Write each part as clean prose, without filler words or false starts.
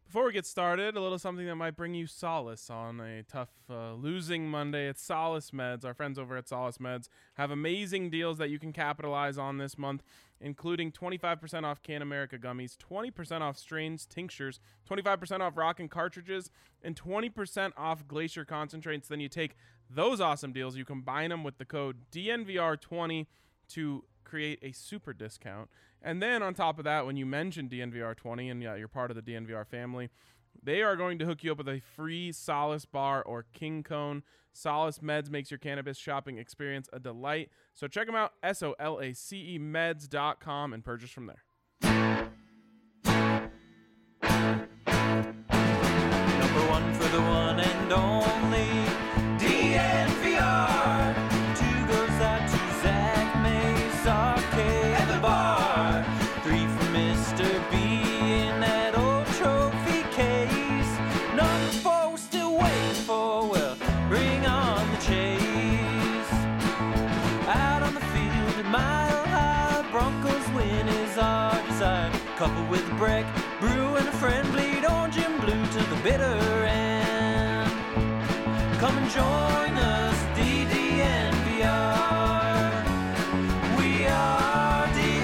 Before we get started, a little something that might bring you solace on a tough losing Monday. It's Solace Meds. Our friends over at Solace Meds have amazing deals that you can capitalize on this month, including 25% off Can America gummies, 20% off strains, tinctures, 25% off Rockin' cartridges, and 20% off Glacier concentrates. Then you take those awesome deals, you combine them with the code DNVR20 to create a super discount. And then on top of that, when you mention DNVR20 and you're part of the DNVR family, they are going to hook you up with a free Solace bar or King Cone. Solace Meds makes your cannabis shopping experience a delight. So check them out, SOLACEmeds.com, and purchase from there. Number one for the one and only DNVR. Two goes out to Zach Mace, Arcade, and the bar. Three for Mr. B in that old trophy case. Number four we're still waiting for, well, bring on the chase. Out on the field at Mile High, Broncos win is our desire. Coupled with a break, brew and a friend, bleed orange and blue to the bitter end. Come and join us, DNVR. We are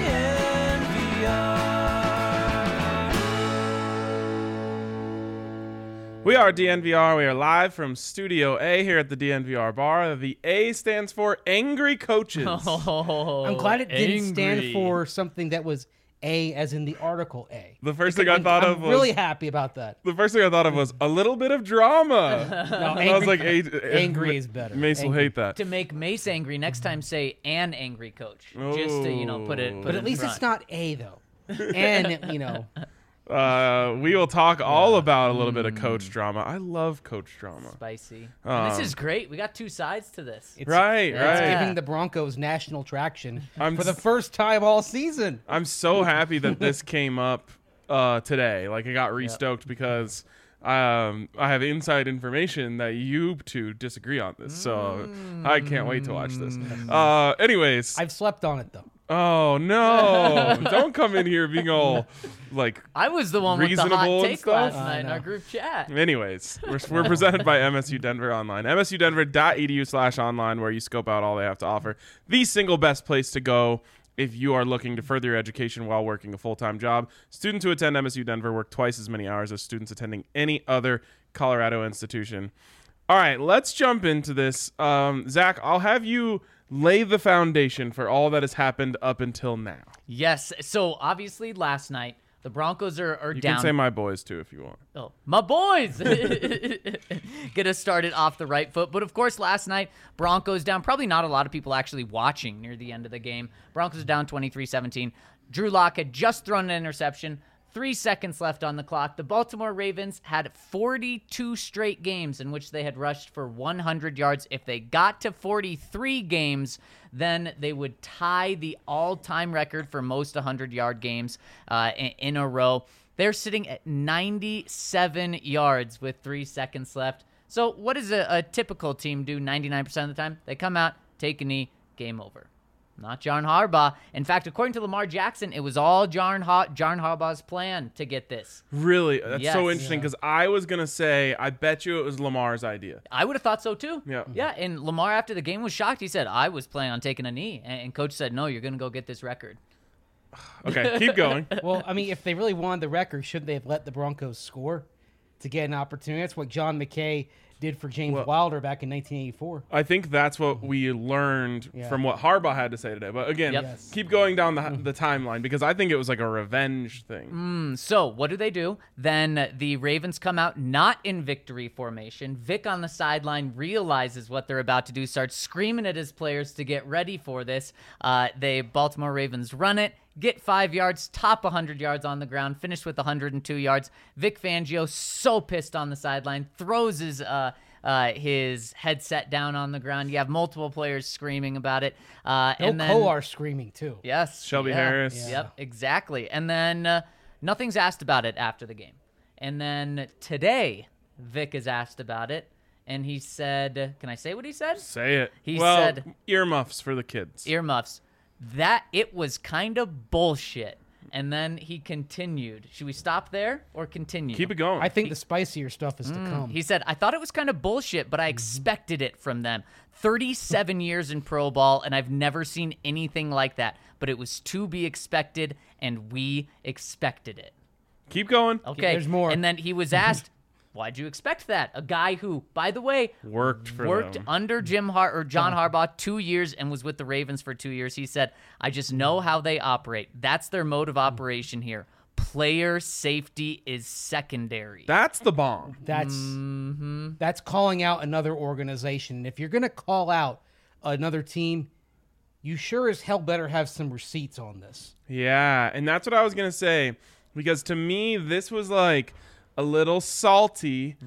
DNVR. We are DNVR. We are live from Studio A here at the DNVR bar. The A stands for Angry Coaches. I'm glad it didn't stand angry. for something that was A as in the article A. The first thing I thought of I'm was really happy about that. the first thing I thought of was a little bit of drama. No, I was like, angry is better. Mace will Angry. hate that. To make Mace angry, next time say an angry coach. Just to, put it But in at least front. it's not A though. And We will talk all about a little bit of coach drama. I love coach drama. spicy. And this Um, is great. We got two sides to this. it's Right, it's right. giving the Broncos national traction I'm for the s- first time all season. I'm so happy that this came up today. Like, I got re-stoked because I have inside information that you two disagree on this. So I can't wait to watch this. Anyways. I've slept on it though. Oh, no. Don't come in here being all, like, I was the one with the reasonable hot and take stuff? last I night in know. our group chat. anyways, we're presented by MSU Denver Online. MSUdenver.edu/online, where you scope out all they have to offer. The single best place to go if you are looking to further your education while working a full-time job. Students who attend MSU Denver work twice as many hours as students attending any other Colorado institution. All right, let's jump into this. Zach, I'll have you lay the foundation for all that has happened up until now. Yes. So obviously last night the Broncos are You down. can say my boys, too, if you want. Oh, my boys! Get us started off the right foot. But, of course, last night, Broncos down. Probably not a lot of people actually watching near the end of the game. Broncos down 23-17. Drew Lock had just thrown an interception. 3 seconds left on the clock. The Baltimore Ravens had 42 straight games in which they had rushed for 100 yards. If they got to 43 games, then they would tie the all-time record for most 100-yard games in a row. They're sitting at 97 yards with 3 seconds left. So what does a typical team do 99% of the time? They come out, take a knee, game over. Not John Harbaugh. In fact, according to Lamar Jackson, it was all John Harbaugh's plan to get this. Really? That's so Yes. interesting because I was going to say, I bet you it was Lamar's idea. I would have thought so too. Yeah. Yeah, and Lamar after the game was shocked. He said, I was planning on taking a knee. And coach said, no, you're going to go get this record. Okay, keep going. Well, I mean, if they really wanted the record, shouldn't they have let the Broncos score to get an opportunity? That's what John McKay did for James Wilder back in 1984. I think that's what we learned Yeah. from what Harbaugh had to say today. But again, Yep. Yes. keep going down the timeline because I think it was like a revenge thing. So what do? Then the Ravens come out not in victory formation. Vic on the sideline realizes what they're about to do, starts screaming at his players to get ready for this. The Baltimore Ravens run it, get 5 yards, top 100 yards on the ground, finish with 102 yards. Vic Fangio, so pissed on the sideline, throws his headset down on the ground. You have multiple players screaming about it. And then Kolar screaming too. Yes. Shelby yeah. Harris. Yep, exactly. And then nothing's asked about it after the game. And then today, Vic is asked about it. And he said, can I say what he said? Say it. He well, said- earmuffs for the kids. Earmuffs. That it was kind of bullshit. And then he continued. Should we stop there or continue? Keep it going. I think the spicier stuff is to come. He said, I thought it was kind of bullshit, but I expected it from them. 37 years in pro ball, and I've never seen anything like that. But it was to be expected, and we expected it. Keep going. Okay. There's more. And then he was asked, why'd you expect that? A guy who, by the way, Worked for worked them. under John Harbaugh 2 years and was with the Ravens for 2 years. He said, I just know how they operate. That's their mode of operation here. Player safety is secondary. That's the bomb. That's calling out another organization. And if you're going to call out another team, you sure as hell better have some receipts on this. Yeah, and that's what I was going to say. Because to me, this was like a little salty.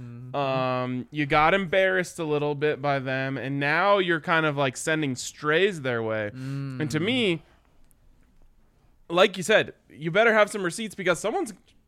You got embarrassed a little bit by them, and now you're kind of like sending strays their way. And to me, like you said, you better have some receipts because someone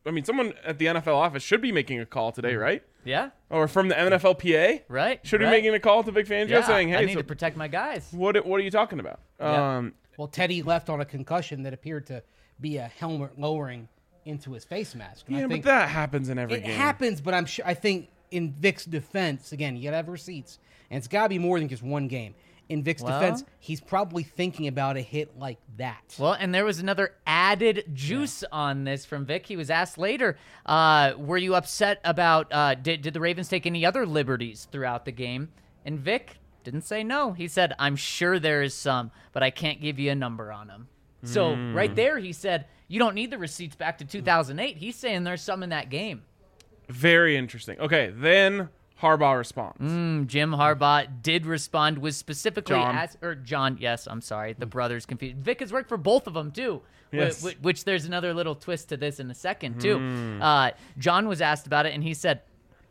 at the NFL office should be making a call today, right? Yeah, Or from the NFLPA, right. should be right. making a call to Vic Fangio Yeah, saying, "Hey, I need so to protect my guys." what are you talking about?" Yeah. Well, Teddy left on a concussion that appeared to be a helmet lowering into his face mask. And Yeah, I think but that happens in every it game. happens, but I think in Vic's defense, again, you got to have receipts. And it's got to be more than just one game. In Vic's defense, he's probably thinking about a hit like that. Well, and there was another added juice on this from Vic. He was asked later, were you upset about, did the Ravens take any other liberties throughout the game? And Vic didn't say no. He said, I'm sure there is some, but I can't give you a number on them. So right there, he said, you don't need the receipts back to 2008. He's saying there's some in that game. Very interesting. Okay, then Harbaugh responds. Jim Harbaugh did respond, was specifically John. John, yes, I'm sorry, the brothers confused. Vic has worked for both of them, too, Yes. which there's another little twist to this in a second, too. John was asked about it, and he said,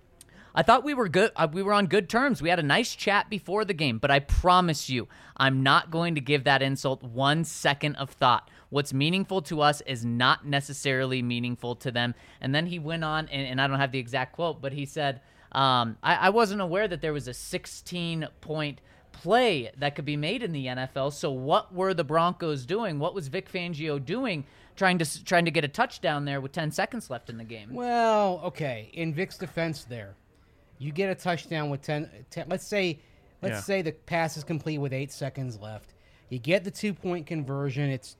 I thought we were good. We were on good terms. We had a nice chat before the game, but I promise you, I'm not going to give that insult 1 second of thought. What's meaningful to us is not necessarily meaningful to them. And then he went on, and I don't have the exact quote, but he said, I wasn't aware that there was a 16-point play that could be made in the NFL. So what were the Broncos doing? What was Vic Fangio doing trying to get a touchdown there with 10 seconds left in the game? Well, okay. In Vic's defense there, you get a touchdown with 10 let's say the pass is complete with 8 seconds left. You get the 2-point conversion. It's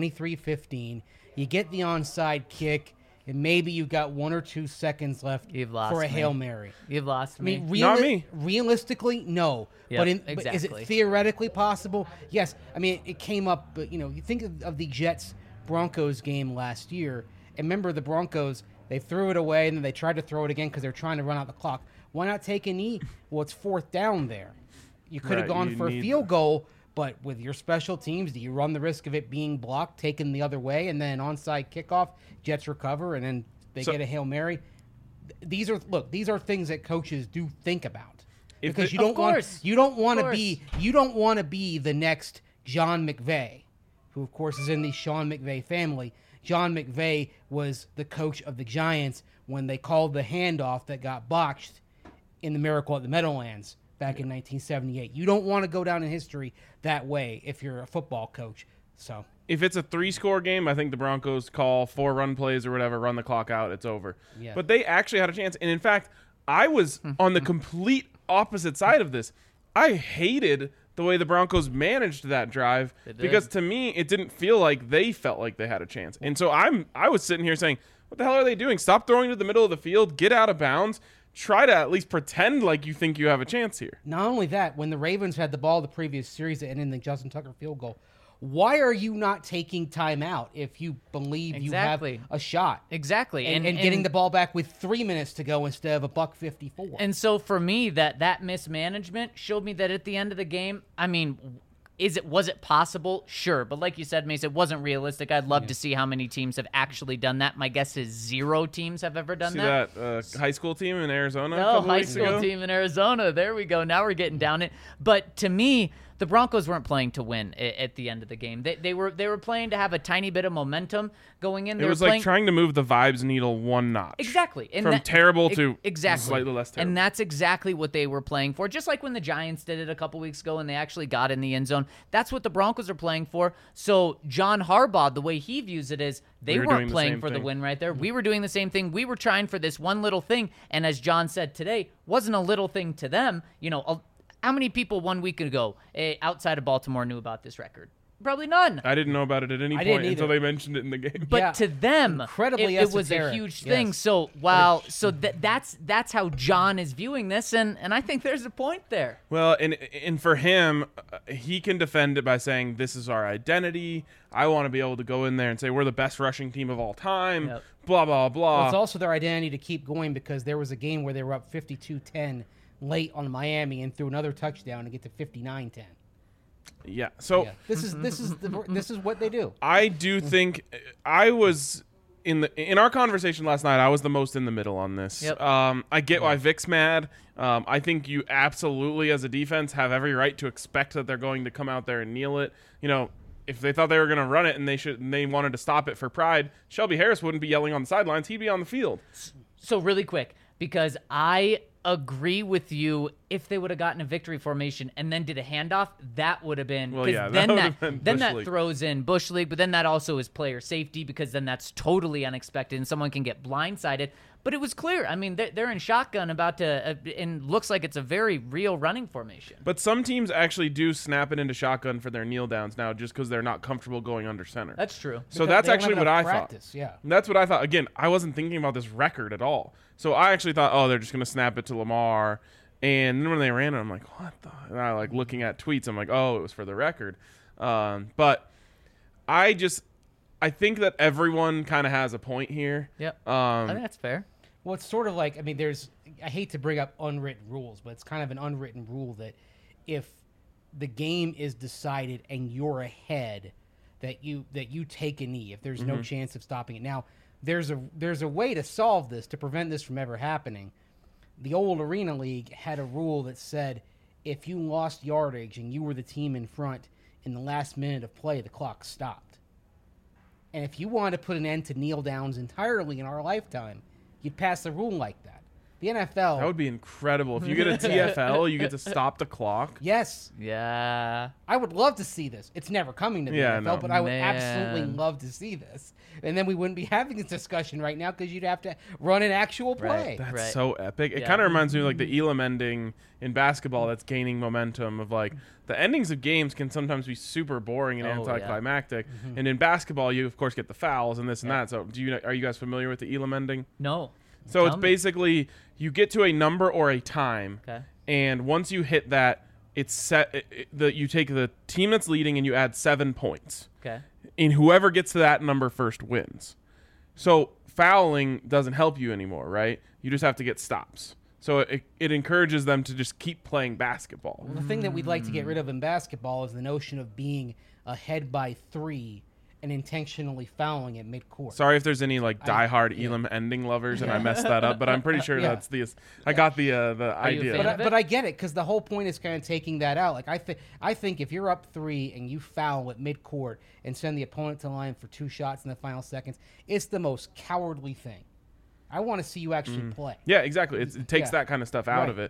23-15. You get the onside kick, and maybe you've got 1 or 2 seconds left You've lost for a me. Hail Mary. You've lost I me. mean, Not me. realistically, no. Yep, but is it exactly. theoretically possible? Yes. I mean, it came up, but you think of the Jets-Broncos game last year, and remember the Broncos, they threw it away, and then they tried to throw it again because they're trying to run out the clock. Why not take a knee? Well, it's 4th down there. You could have Right, gone you for a need- field goal, but with your special teams, do you run the risk of it being blocked, taken the other way, and then onside kickoff, Jets recover, and then they get a Hail Mary? These are things that coaches do think about. If Because the- you Of don't course. want Of to be the next John McVay, who of course is in the Sean McVay family. John McVay was the coach of the Giants when they called the handoff that got botched in the Miracle at the Meadowlands back in 1978. You don't want to go down in history that way if you're a football coach. So If it's a 3-score game, I think the Broncos call 4 run plays or whatever, run the clock out, it's over. Yeah. But they actually had a chance. And in fact, I was on the complete opposite side of this. I hated the way the Broncos managed that drive because to me, it didn't feel like they felt like they had a chance. And so I was sitting here saying, what the hell are they doing? Stop throwing to the middle of the field, get out of bounds, try to at least pretend like you think you have a chance here. not only that, when the Ravens had the ball the previous series that ended in the Justin Tucker field goal, why are you not taking time out if you believe Exactly. you have a shot? Exactly. And getting the ball back with 3 minutes to go instead of $1.54. And so for me, that mismanagement showed me that at the end of the game, I mean, was it possible? Sure. But like you said, Mace, it wasn't realistic. I'd love to see how many teams have actually done that. My guess is 0 teams have ever done See that. that high school team in Arizona a No, couple high weeks school ago? team in Arizona. There we go. Now we're getting down it. But to me, the Broncos weren't playing to win at the end of the game. They were playing to have a tiny bit of momentum going in. It was like trying to move the vibes needle one notch. Exactly. And from terrible to exactly slightly less terrible. And that's exactly what they were playing for. Just like when the Giants did it a couple weeks ago and they actually got in the end zone. That's what the Broncos are playing for. So John Harbaugh, the way he views it is they weren't playing for the win right there. We were doing the same thing. We were trying for this one little thing. And as John said today, wasn't a little thing to them. How many people 1 week ago outside of Baltimore knew about this record? Probably none. I didn't know about it at any point until they mentioned it in the game. But to them, incredibly it was a huge thing. So that's how John is viewing this, and I think there's a point there. Well, and for him, he can defend it by saying this is our identity. I want to be able to go in there and say we're the best rushing team of all time. Yep. Blah blah blah. Well, it's also their identity to keep going because there was a game where they were up 52-10 late on Miami and threw another touchdown to get to 59-10. Yeah. So this is what they do. I do think I was in our conversation last night. I was the most in the middle on this. Yep. I get why Vic's mad. I think you absolutely, as a defense, have every right to expect that they're going to come out there and kneel it. If they thought they were going to run it and they wanted to stop it for pride, Shelby Harris wouldn't be yelling on the sidelines. He'd be on the field. So really quick, because I agree with you, if they would have gotten a victory formation and then did a handoff, that would have been then that throws in Bush League, but then that also is player safety because then that's totally unexpected and someone can get blindsided. But it was clear. I mean, they're in shotgun about to, and looks like it's a very real running formation. But some teams actually do snap it into shotgun for their kneel downs now just because they're not comfortable going under center. That's true. So that's actually what I thought. Yeah. That's what I thought. Again, I wasn't thinking about this record at all. So I actually thought, they're just going to snap it to Lamar. And then when they ran it, I'm like, what the? And I looking at tweets. I'm like, it was for the record. But I think that everyone kind of has a point here. Yep. I think that's fair. Well, it's sort of like, I hate to bring up unwritten rules, but it's kind of an unwritten rule that if the game is decided and you're ahead, that you take a knee if there's no chance of stopping it. Now, there's a way to solve this, to prevent this from ever happening. The old Arena League had a rule that said if you lost yardage and you were the team in front in the last minute of play, the clock stopped. And if you wanted to put an end to kneel downs entirely in our lifetime, you'd pass the rule like that. The NFL... That would be incredible. If you get a TFL, you get to stop the clock. Yes. Yeah. I would love to see this. It's never coming to the NFL, but I would absolutely love to see this. And then we wouldn't be having this discussion right now because you'd have to run an actual play. Right. That's so epic. It kind of reminds me of the Elam ending in basketball that's gaining momentum of the endings of games can sometimes be super boring and anticlimactic. Yeah. And in basketball, you, of course, get the fouls and this and that. So are you guys familiar with the Elam ending? No. So it's basically you get to a number or a time, and once you hit that, it's set. You take the team that's leading and you add 7 points. Okay. And whoever gets to that number first wins. So fouling doesn't help you anymore, right? You just have to get stops. So it encourages them to just keep playing basketball. Well, the thing that we'd like to get rid of in basketball is the notion of being ahead by 3 and intentionally fouling at midcourt. Sorry if there's any diehard Elam ending lovers and I messed that up, but I'm pretty sure that's I got the idea. But I get it because the whole point is kind of taking that out. I think if you're up 3 and you foul at midcourt and send the opponent to the line for 2 shots in the final seconds, it's the most cowardly thing. I want to see you actually play. Yeah, exactly. It takes that kind of stuff out of it.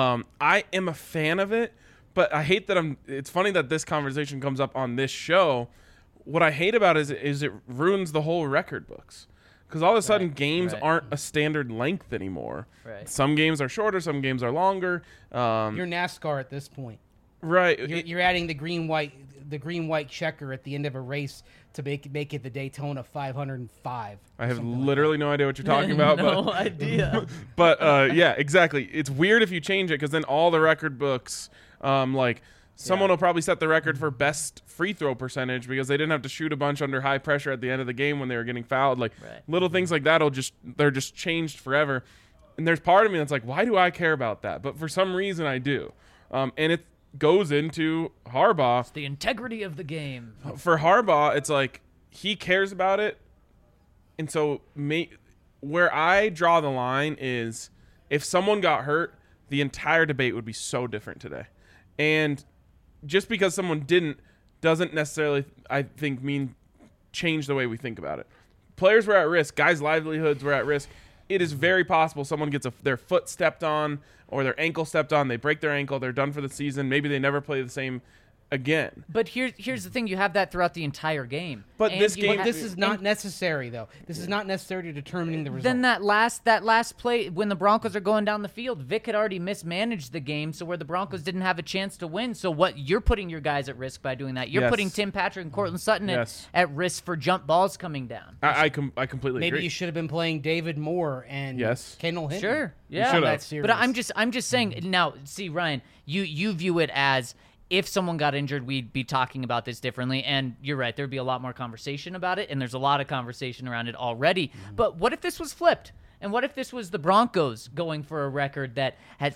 I am a fan of it, but I hate that it's funny that this conversation comes up on this show. What I hate about it is it ruins the whole record books. Because all of a sudden, games aren't a standard length anymore. Right. Some games are shorter, some games are longer. You're NASCAR at this point. Right. You're adding the green-white checker at the end of a race to make it the Daytona 505. I have literally no idea what you're talking about. No idea. But, yeah, exactly. It's weird if you change it because then all the record books, someone will probably set the record for best free throw percentage because they didn't have to shoot a bunch under high pressure at the end of the game when they were getting fouled. Little things like that they're just changed forever. And there's part of me that's like, why do I care about that? But for some reason I do. And it goes into Harbaugh. It's the integrity of the game. For Harbaugh, it's like he cares about it. And so where I draw the line is if someone got hurt, the entire debate would be so different today. And just because someone didn't doesn't necessarily, I think, mean change the way we think about it. Players were at risk. Guys' livelihoods were at risk. It is very possible someone gets their foot stepped on or their ankle stepped on. They break their ankle. They're done for the season. Maybe they never play the same again. But here's the thing: you have that throughout the entire game. But And this you game- But this is not necessary, though. This is not necessary to determining the result. Then that last play when the Broncos are going down the field, Vic had already mismanaged the game, so where the Broncos didn't have a chance to win. So what you're putting your guys at risk by doing that. You're Yes. putting Tim Patrick and Cortland Sutton Yes. at risk for jump balls coming down. I completely Maybe agree. you should have been playing David Moore and Yes. Kendall Hinton. Sure, You yeah. should That have. series. But I'm just saying now. See, Ryan, you view it as if someone got injured, we'd be talking about this differently. And you're right, there'd be a lot more conversation about it, and there's a lot of conversation around it already. But what if this was flipped? And what if this was the Broncos going for a record that had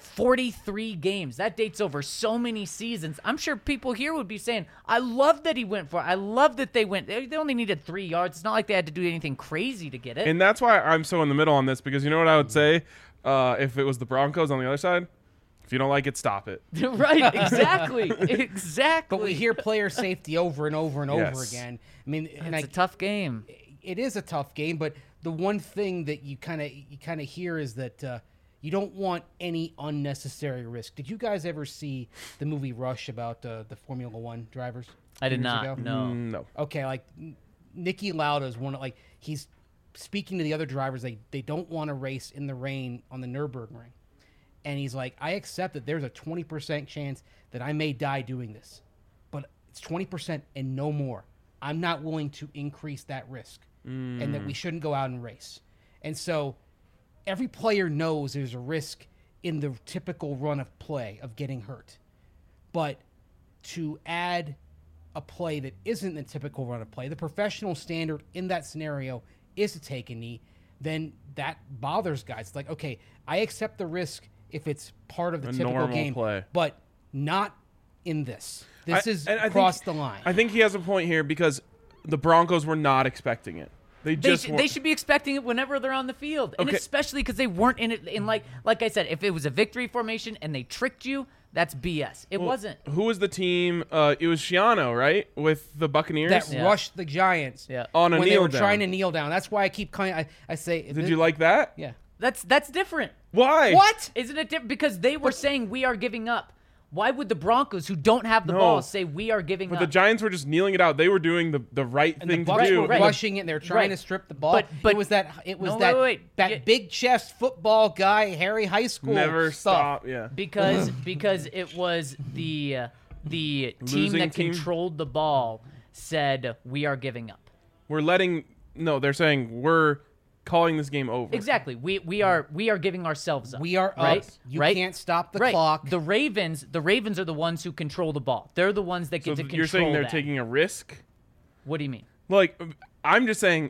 43 games? That dates over so many seasons. I'm sure people here would be saying, I love that he went for it. I love that they went. They only needed 3 yards. It's not like they had to do anything crazy to get it. And that's why I'm so in the middle on this, because you know what I would say if it was the Broncos on the other side? If you don't like it, stop it. Right, exactly. Exactly. But we hear player safety over and over and over Yes. again. I mean, and it's a tough game. it is a tough game, but the one thing that you kind of hear is that you don't want any unnecessary risk. Did you guys ever see the movie Rush about the Formula One drivers? I did years not. ago? No. No. Okay, like Nicky Lauda is one of, like, he's speaking to the other drivers. They don't want to race in the rain on the Nürburgring. And he's like, I accept that there's a 20% chance that I may die doing this, but it's 20% and no more. I'm not willing to increase that risk, and that we shouldn't go out and race. And so every player knows there's a risk in the typical run of play of getting hurt. But to add a play that isn't the typical run of play, the professional standard in that scenario is to take a knee, then that bothers guys. It's like, okay, I accept the risk if it's part of the A typical normal game, play. but not in this. This is and I crossed think- the line. I think he has a point here because the Broncos were not expecting it. They just They should be expecting it whenever they're on the field, and Okay. especially because they weren't in it. In like I said, if it was a victory formation and they tricked you, that's BS. It wasn't. Who was the team? It was Shiano, right, with the Buccaneers. that Yeah. rushed the Giants Yeah. On a when they kneel were down. trying to kneel down. That's why I keep calling. I say, Did you like that? Yeah. That's different. Why? What? Isn't it different? Because they were saying we are giving up. Why would the Broncos, who don't have the No. ball, say we are giving But up? the Giants were just kneeling it out. They were doing the right And the thing to Bucs do. were Right. rushing it. They were trying Right. to strip the ball. But- it was that No, that wait. that Yeah. big chest football guy, Harry High School. Never stuff. stop. Yeah. because it was the team Losing that team? controlled the ball said we are giving up. They're saying we're calling this game over. Exactly. We are giving ourselves up. We are right. up. You right? can't stop the right. clock. The Ravens are the ones who control the ball. They're the ones that So get to control you're saying they're that. taking a risk? What do you mean? Like, I'm just saying,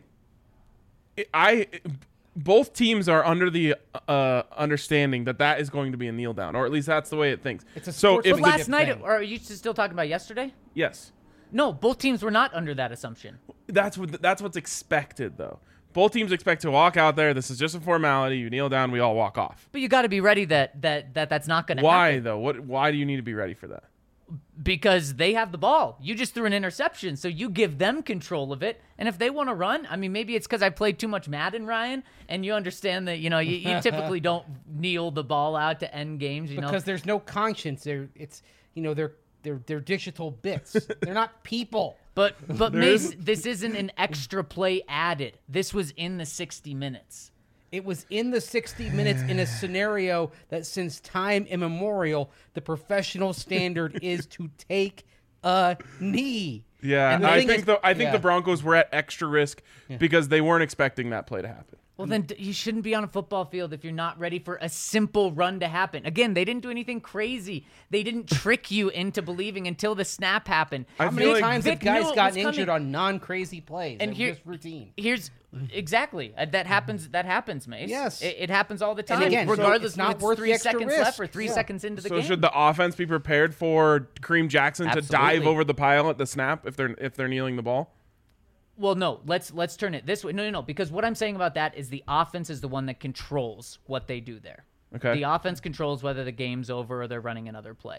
both teams are under the understanding that is going to be a kneel down, or at least that's the way it thinks. It's a so sports if But It's a last night, thing. or are you still talking about yesterday? yes, No, both teams were not under that assumption. that's what's expected though. Both teams expect to walk out there. This is just a formality. You kneel down, we all walk off. But you got to be ready that's not going to Why happen. though? Why do you need to be ready for that? Because they have the ball. You just threw an interception, so you give them control of it. And if they want to run, I mean, maybe it's because I played too much Madden, Ryan, and you understand that, you typically don't kneel the ball out to end games, because there's no conscience. They're digital bits. They're not people. But Mace, this isn't an extra play added. This was in the 60 minutes. It was in the 60 minutes in a scenario that since time immemorial, the professional standard is to take a knee. Yeah, And the I thing think is- the Broncos were at extra risk because they weren't expecting that play to happen. Well, then you shouldn't be on a football field if you're not ready for a simple run to happen. Again, they didn't do anything crazy. They didn't trick you into believing until the snap happened. I How feel many like times Vic have guys knew it gotten was injured coming. on non-crazy plays? And And here- just routine. Here's exactly that happens. That happens, Mace. Yes. it happens all the time. And again, so regardless it's not if worth it's the 3 extra seconds risk. left or 3 Yeah. seconds into the So game. should the offense be prepared for Kareem Jackson to dive Absolutely. over the pile at the snap if they're kneeling the ball? Well, no. Let's turn it this way. No. Because what I'm saying about that is the offense is the one that controls what they do there. Okay. The offense controls whether the game's over or they're running another play.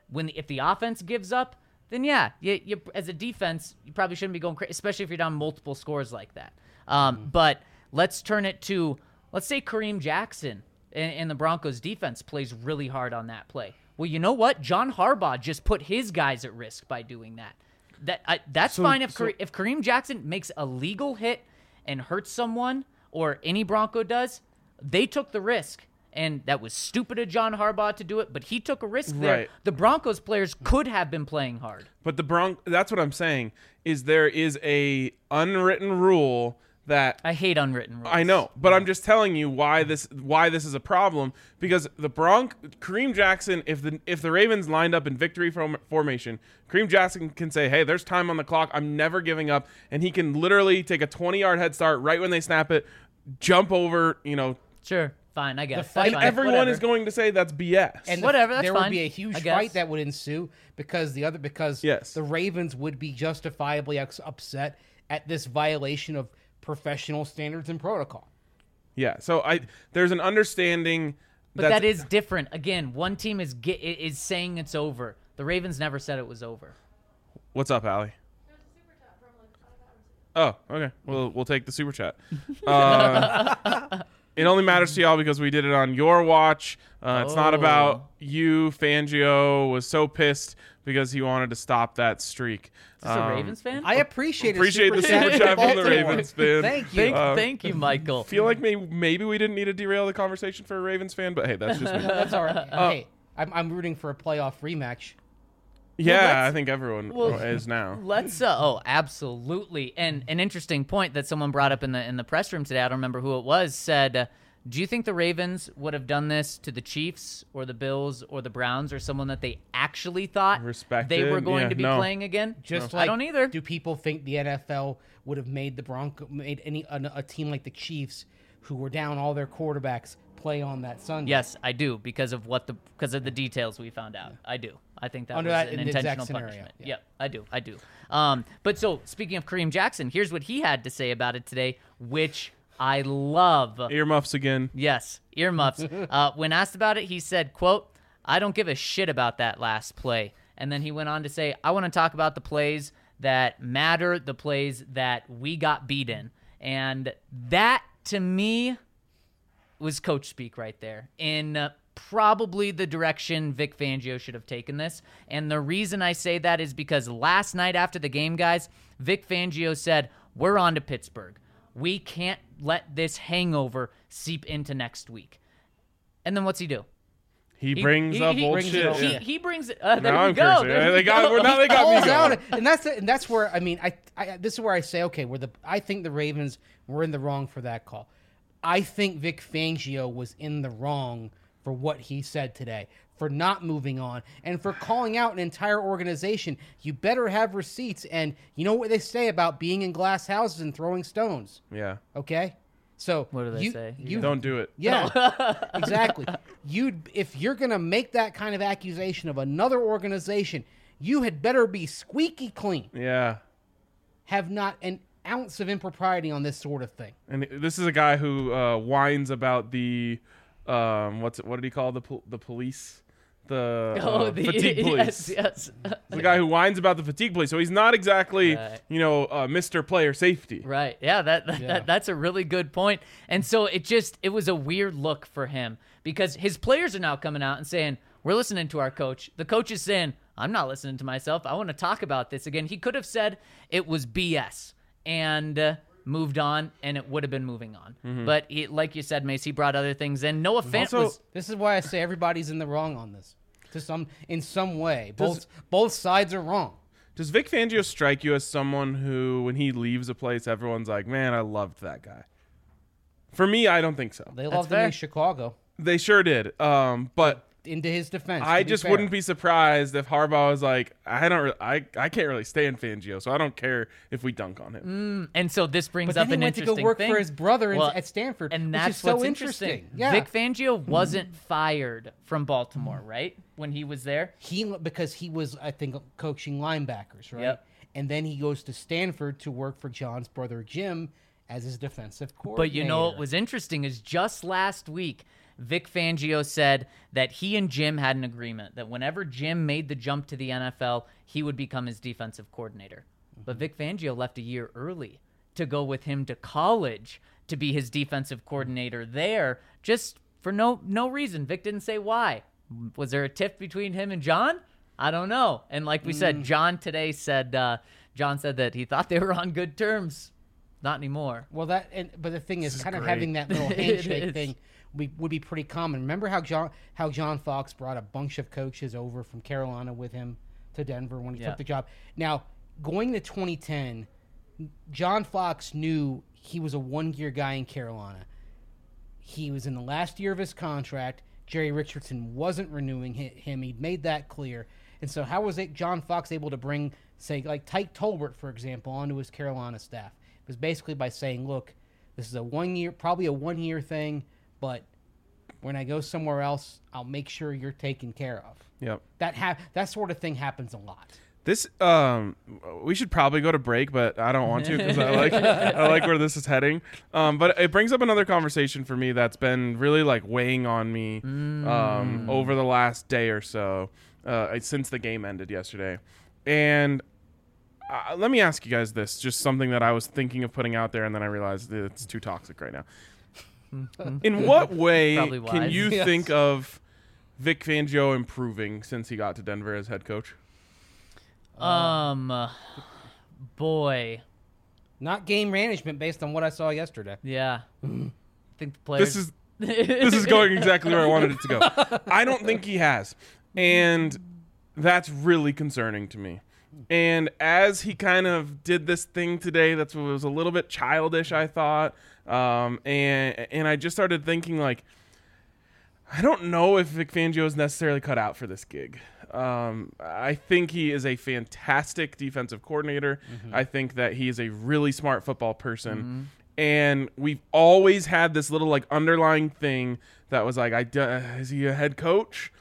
if the offense gives up, then yeah, you as a defense, you probably shouldn't be going crazy, especially if you're down multiple scores like that. But let's turn it to, let's say Kareem Jackson and the Broncos defense plays really hard on that play. Well, you know what? John Harbaugh just put his guys at risk by doing that. That's fine if Kareem Jackson makes a legal hit and hurts someone, or any Bronco does. They took the risk, and that was stupid of John Harbaugh to do it, but he took a risk there. Right. The Broncos players could have been playing hard. But that's what I'm saying, is there is a unwritten rule that I hate unwritten rules. I know, but I'm just telling you why this is a problem, because Kareem Jackson, if the Ravens lined up in victory formation, Kareem Jackson can say, "Hey, there's time on the clock. I'm never giving up," and he can literally take a 20-yard head start right when they snap it, jump over, Sure, fine, I guess. The fight- That's fine. everyone Whatever. is going to say that's BS. And Whatever, that's there fine, would be a huge I guess. fight that would ensue because Yes. the Ravens would be justifiably upset at this violation of professional standards and protocol. Yeah, so there's an understanding. But that is different. Again, one team is saying it's over. The Ravens never said it was over. What's up, Allie? Oh, okay. We'll take the super chat. It only matters to y'all because we did it on your watch. It's not about you. Fangio was so pissed because he wanted to stop that streak. Is this a Ravens fan? I appreciate the super chat from the Baltimore. Ravens fan. Thank you. Thank you, Michael. Feel like maybe we didn't need to derail the conversation for a Ravens fan, but hey, that's just me. That's all right. Hey, I'm rooting for a playoff rematch. Yeah, I think everyone is now. Let's absolutely. And an interesting point that someone brought up in the press room today, I don't remember who it was, said, do you think the Ravens would have done this to the Chiefs or the Bills or the Browns or someone that they actually thought Respected? they were going Yeah, to be no. playing again? Just I don't either. Do people think the NFL would have made a team like the Chiefs, who were down all their quarterbacks, play on that Sunday? Yes, I do, because of the details we found out. I do. I think that Under was that an exact intentional scenario, punishment. yeah. Yep, I do. But so speaking of Kareem Jackson, here's what he had to say about it today, which I love. Earmuffs again. Yes, earmuffs. When asked about it, he said, quote, "I don't give a shit about that last play." And then he went on to say, "I want to talk about the plays that matter, the plays that we got beat in." And that, to me, was coach speak right there, in probably the direction Vic Fangio should have taken this. And the reason I say that is because last night after the game, guys, Vic Fangio said, "We're on to Pittsburgh. We can't let this hangover seep into next week." And then what's he do? He brings up old brings it shit. up. Yeah. He brings it. There Now we I'm go. cursing. There we They got go. me Calls going. out, and that's where this is where I say, okay, I think the Ravens were in the wrong for that call. I think Vic Fangio was in the wrong for what he said today, for not moving on, and for calling out an entire organization. You better have receipts, and you know what they say about being in glass houses and throwing stones, Yeah. okay? So What do they say? Don't do it. Yeah, exactly. If you're going to make that kind of accusation of another organization, you had better be squeaky clean. Yeah. Have not an ounce of impropriety on this sort of thing. And this is a guy who whines about the what did he call the police? The fatigue police. Yes. The guy who whines about the fatigue police. So he's not exactly, Right. Mr. Player Safety. Right. Yeah, that's a really good point. And so it was a weird look for him, because his players are now coming out and saying, "We're listening to our coach." The coach is saying, "I'm not listening to myself. I want to talk about this again." He could have said it was BS and moved on, and it would have been moving on. Mm-hmm. But like you said, Mace, he brought other things in. Noah Fant Also- was This is why I say everybody's in the wrong on this. In some way, both sides are wrong. Does Vic Fangio strike you as someone who, when he leaves a place, everyone's like, "Man, I loved that guy"? For me, I don't think so. They loved him fair. in Chicago. They sure did. But Into his defense, I to be just fair. wouldn't be surprised if Harbaugh was like, I can't really stand Fangio, so I don't care if we dunk on him. and so this brings But up then an he went to interesting go work thing. for his brother Well, at Stanford, and which that's is so what's interesting. Yeah, Vic Fangio wasn't fired from Baltimore, right? When he was there. because he was, I think, coaching linebackers, right? Yep. And then he goes to Stanford to work for John's brother Jim as his defensive coordinator. But you know what was interesting is just last week, Vic Fangio said that he and Jim had an agreement that whenever Jim made the jump to the NFL, he would become his defensive coordinator. But Vic Fangio left a year early to go with him to college to be his defensive coordinator there, just for no reason. Vic didn't say why. Was there a tiff between him and John? I don't know. And like we said, John today said that he thought they were on good terms. Not anymore. Well, but the thing is, kind of great. having that little handshake thing would be pretty common. Remember how John Fox brought a bunch of coaches over from Carolina with him to Denver when he took the job. Now, going to 2010, John Fox knew he was a one-year guy in Carolina. He was in the last year of his contract. Jerry Richardson wasn't renewing him. He'd made that clear. And so how was John Fox able to bring, say, like Tyke Tolbert, for example, onto his Carolina staff? It was basically by saying, look, this is probably a one-year thing, but when I go somewhere else, I'll make sure you're taken care of. Yep. That sort of thing happens a lot. This we should probably go to break, but I don't want to because I like where this is heading. But it brings up another conversation for me that's been really like weighing on me over the last day or so since the game ended yesterday. And let me ask you guys this, just something that I was thinking of putting out there, and then I realized that it's too toxic right now. In what way Probably can wise. you Yes. think of Vic Fangio improving since he got to Denver as head coach? Boy. Not game management based on what I saw yesterday. Yeah. I think the players. This is going exactly where I wanted it to go. I don't think he has. And that's really concerning to me. And as he kind of did this thing today that was a little bit childish, I thought, and I just started thinking, like, I don't know if Vic Fangio is necessarily cut out for this gig. I think he is a fantastic defensive coordinator. I think that he is a really smart football person. And we've always had this little like underlying thing that was like, is he a head coach?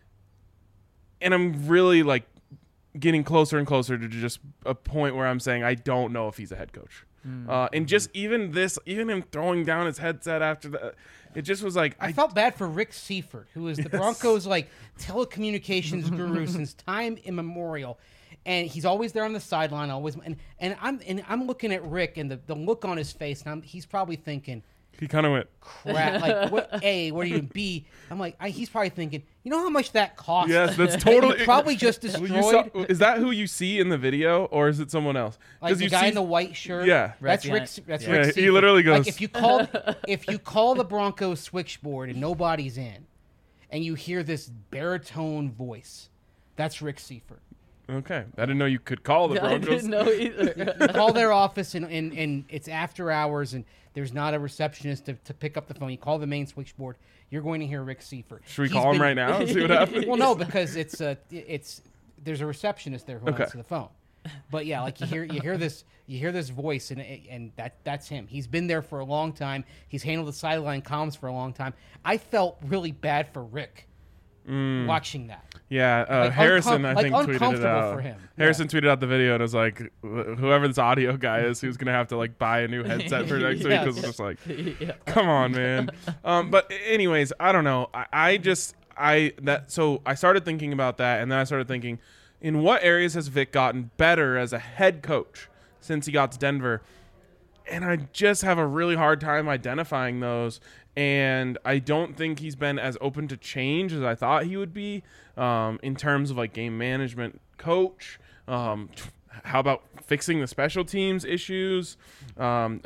And I'm really like getting closer and closer to just a point where I'm saying I don't know if he's a head coach. And just even him throwing down his headset after that, it just was like I felt bad for Rick Seifert, who is the Broncos' like telecommunications guru since time immemorial, and he's always there on the sideline, always. And I'm looking at Rick and the look on his face, and he's probably thinking, he kind of went, crap. Like, what are you? B. I'm like, he's probably thinking, you know how much that cost? yes, that's totally Probably just Well, destroyed. is that who you see in the video, or is it someone else? Like the you guy see, in the white shirt. Yeah. that's Right Rick. behind- That's yeah. Rick. Yeah, he Seifert. literally goes- Like if you call the Broncos switchboard and nobody's in, and you hear this baritone voice, that's Rick Seifert. Okay, I didn't know you could call the I Broncos. didn't know either. You call their office and it's after hours and there's not a receptionist to pick up the phone. You call the main switchboard. You're going to hear Rick Seifert. Should we call him right now and see what happens? Well, no, because there's a receptionist there who Okay. answers the phone. But yeah, like you hear this voice and that's him. He's been there for a long time. He's handled the sideline comms for a long time. I felt really bad for Rick watching that. Yeah, Like Harrison, I think, tweeted it uncomfortable out. for him. Harrison tweeted out the video and was like, whoever this audio guy is, who's going to have to like buy a new headset for next week. Yes. Because it's just like, come on, man. But anyways, I don't know. So I started thinking about that, and then I started thinking, in what areas has Vic gotten better as a head coach since he got to Denver? And I just have a really hard time identifying those. And I don't think he's been as open to change as I thought he would be in terms of like game management coach. How about fixing the special teams issues? I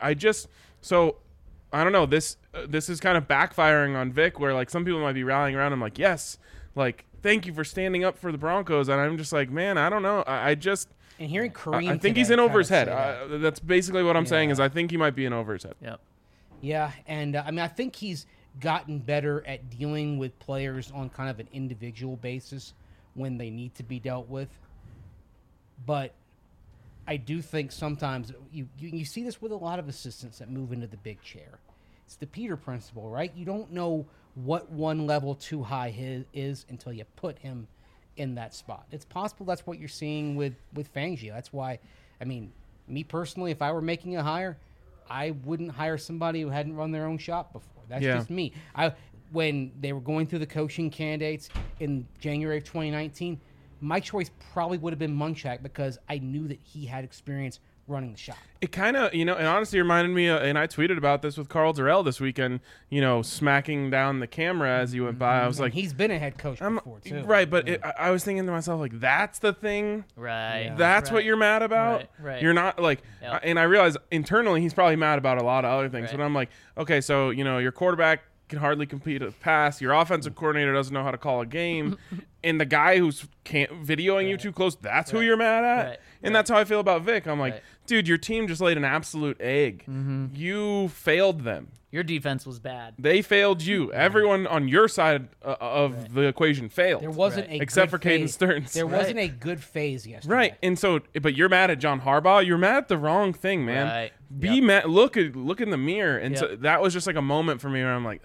don't know. This is kind of backfiring on Vic, where like some people might be rallying around him like, yes, like thank you for standing up for the Broncos. And I'm just like, man, I don't know. And hearing Kareem, I think he's today in over kind his of head. say that. That's basically what I'm saying is I think he might be in over his head. Yep. Yeah, and I mean, I think he's gotten better at dealing with players on kind of an individual basis when they need to be dealt with. But I do think sometimes you see this with a lot of assistants that move into the big chair. It's the Peter principle, right? You don't know what one level too high is until you put him in that spot. It's possible that's what you're seeing with Fangio. That's why, I mean, me personally, if I were making a hire, I wouldn't hire somebody who hadn't run their own shop before. That's Yeah. just me. When they were going through the coaching candidates in January of 2019, my choice probably would have been Munchak because I knew that he had experience running the shop. It kind of, and honestly reminded me, and I tweeted about this with Carl Durrell this weekend, smacking down the camera as he went by. I was like, He's been a head coach before, too. right, but I was thinking to myself, like, that's the thing? Right. Yeah. That's what you're mad about? Right. You're not, like, Yep. and I realize internally he's probably mad about a lot of other things, Right. but I'm like, okay, so, your quarterback can hardly complete a pass, your offensive coordinator doesn't know how to call a game, and the guy who's videoing you too close, that's who you're mad at? Right. And that's how I feel about Vic. I'm like, Right. dude, your team just laid an absolute egg. You failed them. Your defense was bad. They failed you. Everyone on your side of the equation failed. There wasn't Right. a Except good for Caden phase. Stearns. There Right. wasn't a good phase yesterday. Right. And so, but you're mad at John Harbaugh. You're mad at the wrong thing, man. Right. Be Yep. mad. Look in the mirror. And so Yep. that was just like a moment for me where I'm like,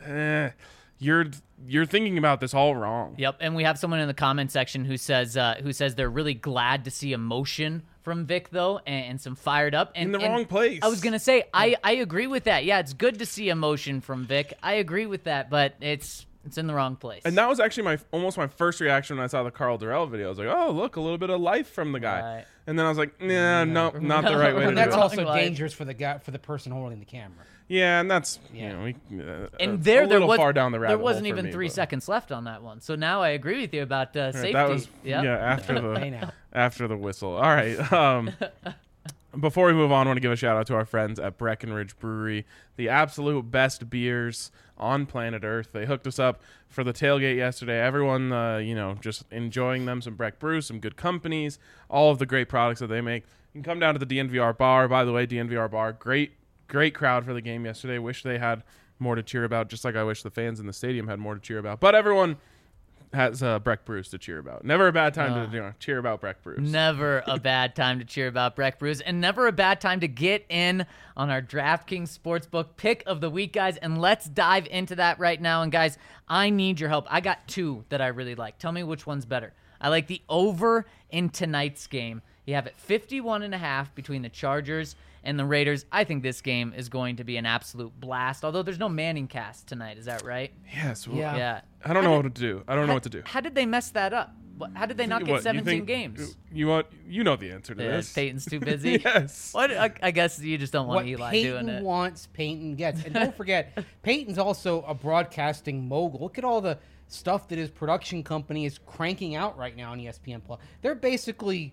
you're thinking about this all wrong. Yep, and we have someone in the comment section who says they're really glad to see emotion from Vic though, and some fired up and In the and wrong place. I was gonna say I agree with that. Yeah, it's good to see emotion from Vic. I agree with that, but it's in the wrong place. And that was actually almost my first reaction when I saw the Carl Durrell video. I was like, oh, look, a little bit of life from the guy. Right. And then I was like, nah, no, not the right way to And do that's it. also Wrong life. dangerous for the person holding the camera. Yeah, and that's and a there little was far down the rabbit there hole wasn't for even me, 3 but- seconds left on that one. So now I agree with you about safety. That was Yep. after Hey, the now. after the whistle. All right. Before we move on, I want to give a shout out to our friends at Breckenridge Brewery, the absolute best beers on planet Earth. They hooked us up for the tailgate yesterday. Everyone, just enjoying them. Some Breck Brew, some good companies, all of the great products that they make. You can come down to the DNVR bar. By the way, DNVR bar, great crowd for the game yesterday. Wish they had more to cheer about, just like I wish the fans in the stadium had more to cheer about. But everyone has Breck Brews to cheer about. Never a bad time to cheer about Breck Brews. Never a bad time to cheer about Breck Brews, and never a bad time to get in on our DraftKings Sportsbook pick of the week, guys. And let's dive into that right now. And guys, I need your help. I got 2 that I really like. Tell me which one's better. I like the over in tonight's game. You have it 51.5 between the Chargers and the Raiders. I think this game is going to be an absolute blast. Although there's no Manning cast tonight, is that right? Yes. Well, Yeah. Yeah. I don't know what to do. I don't know what to do. How did they mess that up? How did they not get What, you 17 think- games? You know the answer to Yeah, this. Peyton's too busy. Yes. What? I guess you just don't want What Eli Peyton doing it. wants, Peyton gets. And don't forget, Peyton's also a broadcasting mogul. Look at all the stuff that his production company is cranking out right now on ESPN Plus. They're basically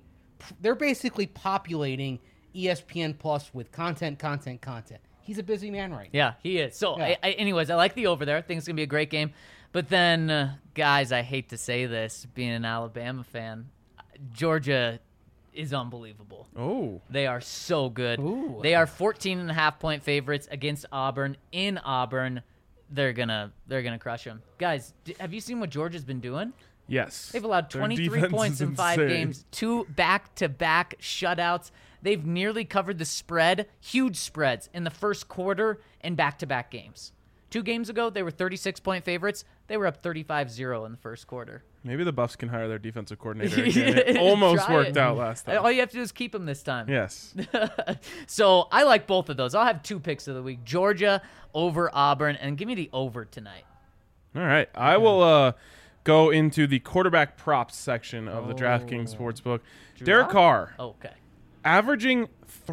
populating ESPN Plus with content. He's a busy man right now. Yeah, he is. So, Yeah. anyways, I like the over there. I think it's going to be a great game. But then, guys, I hate to say this, being an Alabama fan, Georgia is unbelievable. Oh. They are so good. Ooh. They are 14.5-point favorites against Auburn in Auburn. They're gonna crush them. Guys, have you seen what Georgia's been doing? Yes. They've allowed Their 23 defense points is in 5 insane. games, 2 back-to-back shutouts. They've nearly covered the spread, huge spreads, in the first quarter in back-to-back games. 2 games ago, they were 36-point favorites. They were up 35-0 in the first quarter. Maybe the Buffs can hire their defensive coordinator again. It almost Try worked it. out last time. All you have to do is keep them this time. Yes. So I like both of those. I'll have 2 picks of the week. Georgia over Auburn, and give me the over tonight. All right. I will go into the quarterback props section of the DraftKings Sportsbook. Derek Carr, Okay. averaging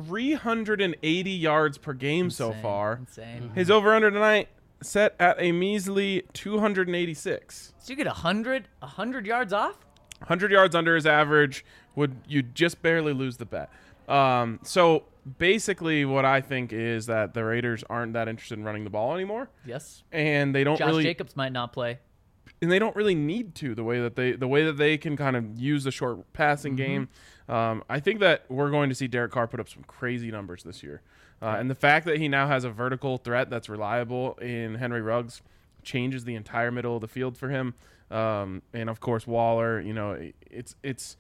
380 yards per game so Insane. far. Insane. His over-under tonight set at a measly 286. So you get 100 yards off? 100 yards under his average, you just barely lose the bet. So basically what I think is that the Raiders aren't that interested in running the ball anymore, Yes. and they don't Josh really Jacobs might not play. and they don't really need to the way that they can kind of use the short passing game. I think that we're going to see Derek Carr put up some crazy numbers this year. And the fact that he now has a vertical threat that's reliable in Henry Ruggs changes the entire middle of the field for him. And of course Waller, it's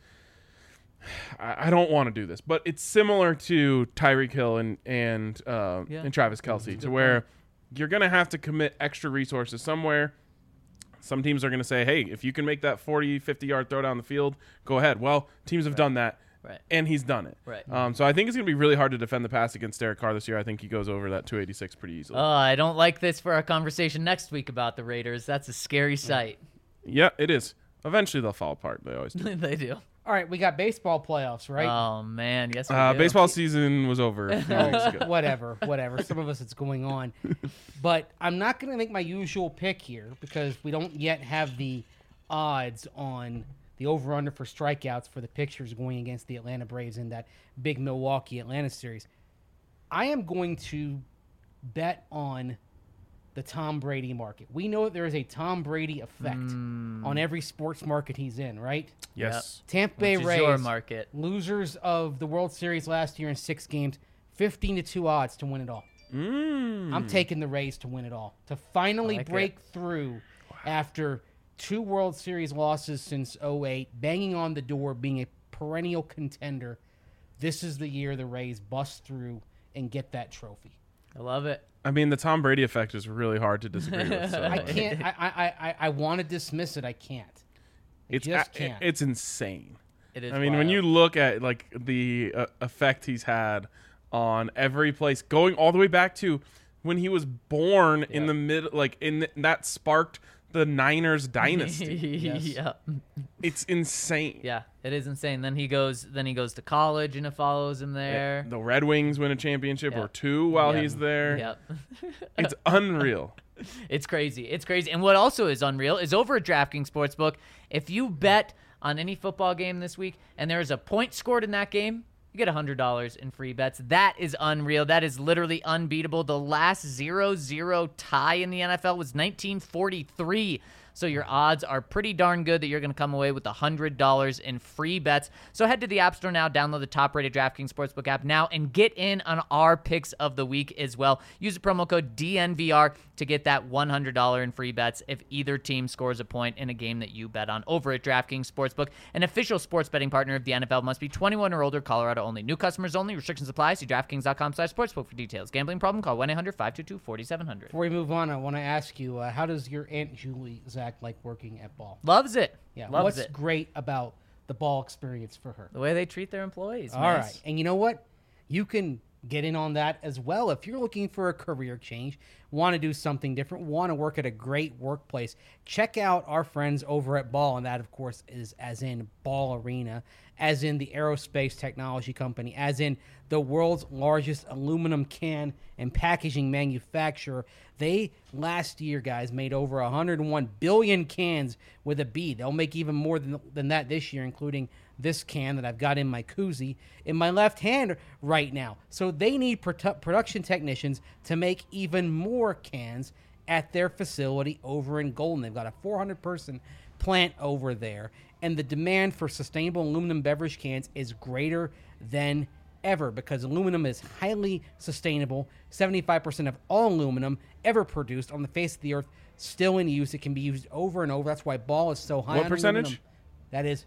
I don't want to do this, but it's similar to Tyreek Hill and Travis Kelce, to where you're going to have to commit extra resources somewhere. Some teams are going to say, hey, if you can make that 40, 50-yard throw down the field, go ahead. Well, teams have done that, Right. and he's done it. Right. So I think it's going to be really hard to defend the pass against Derek Carr this year. I think he goes over that 286 pretty easily. I don't like this for our conversation next week about the Raiders. That's a scary sight. Yeah, it is. Eventually they'll fall apart. They always do. They do. All right, we got baseball playoffs, right? Oh, man. Yes, we do. Baseball season was over a few weeks ago. Whatever. Some of us, it's going on. But I'm not going to make my usual pick here because we don't yet have the odds on the over-under for strikeouts for the pitchers going against the Atlanta Braves in that big Milwaukee-Atlanta series. I am going to bet on the Tom Brady market. We know that there is a Tom Brady effect on every sports market he's in, right? Yes. Tampa Bay Which is Rays, your market. losers of the World Series last year in 6 games, 15-2 odds to win it all. I'm taking the Rays to win it all, to finally like break through after 2 World Series losses since 2008, banging on the door, being a perennial contender. This is the year the Rays bust through and get that trophy. I love it. I mean, the Tom Brady effect is really hard to disagree with. So. I can't. I want to dismiss it. I can't. Can't. It's insane. It is I mean, wild. when you look at like the effect he's had on every place, going all the way back to when he was born in the mid, like that sparked the Niners dynasty. Yeah. It's insane. Yeah, it is insane. Then he goes to college and it follows him there. The Red Wings win a championship Yeah. or 2 while Yeah. he's there. Yep. It's unreal. It's crazy. It's crazy. And what also is unreal is over at DraftKings Sportsbook, if you bet on any football game this week and there is a point scored in that game, you get $100 in free bets. That is unreal. That is literally unbeatable. The last 0-0 tie in the NFL was 1943. So your odds are pretty darn good that you're going to come away with $100 in free bets. So head to the App Store now, download the top-rated DraftKings Sportsbook app now, and get in on our picks of the week as well. Use the promo code DNVR to get that $100 in free bets if either team scores a point in a game that you bet on over at DraftKings Sportsbook. An official sports betting partner of the NFL, must be 21 or older, Colorado only. New customers only. Restrictions apply. See DraftKings.com/sportsbook for details. Gambling problem? Call 1-800-522-4700. Before we move on, I want to ask you, how does your Aunt Julie, Zach, like working at Ball? Loves it. Yeah, Loves what's it. great about the Ball experience for her? The way they treat their employees. All nice. right. And you know what? You can get in on that as well. If you're looking for a career change, want to do something different, want to work at a great workplace, check out our friends over at Ball. And that, of course, is as in Ball Arena, as in the aerospace technology company, as in the world's largest aluminum can and packaging manufacturer. They, last year, guys, made over 101 billion cans with a B. They'll make even more than that this year, including this can that I've got in my koozie in my left hand right now. So they need production technicians to make even more cans at their facility over in Golden. They've got a 400-person plant over there, and the demand for sustainable aluminum beverage cans is greater than ever because aluminum is highly sustainable. 75% of all aluminum ever produced on the face of the earth still in use. It can be used over and over. That's why Ball is so high What on percentage? aluminum. That is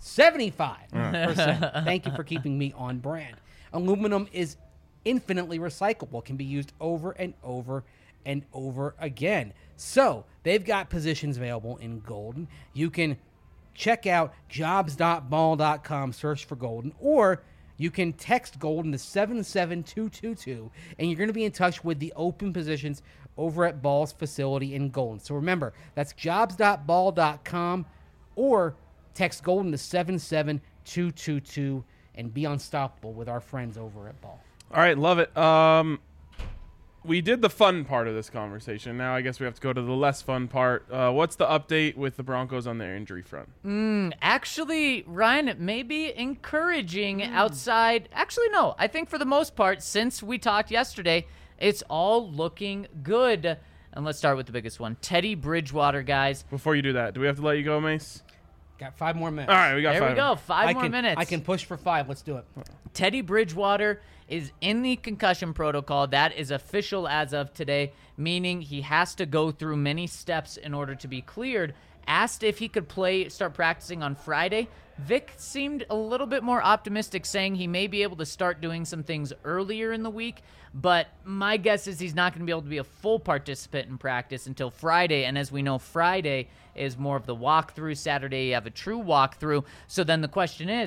75%. Thank you for keeping me on brand. Aluminum is infinitely recyclable, can be used over and over and over again. So they've got positions available in Golden. You can check out jobs.ball.com, search for Golden, or you can text Golden to 77222, and you're going to be in touch with the open positions over at Ball's facility in Golden. So remember, that's jobs.ball.com, or text Golden to 77222 and be unstoppable with our friends over at Ball. All right, love it. We did the fun part of this conversation. Now I guess we have to go to the less fun part. What's the update with the Broncos on their injury front? Actually, Ryan, it may be encouraging outside. Actually, no. I think for the most part, since we talked yesterday, it's all looking good. And let's start with the biggest one. Teddy Bridgewater, guys. Before you do that, do we have to let you go, Mace? Got 5 more minutes. All right, we got There 5. we go. Five I more can, minutes. I can push for 5. Let's do it. Teddy Bridgewater is in the concussion protocol. That is official as of today, meaning he has to go through many steps in order to be cleared. Asked if he could start practicing on Friday, Vic seemed a little bit more optimistic, saying he may be able to start doing some things earlier in the week, but my guess is he's not going to be able to be a full participant in practice until Friday, and as we know, Friday is more of the walkthrough. Saturday, you have a true walkthrough. So then the question is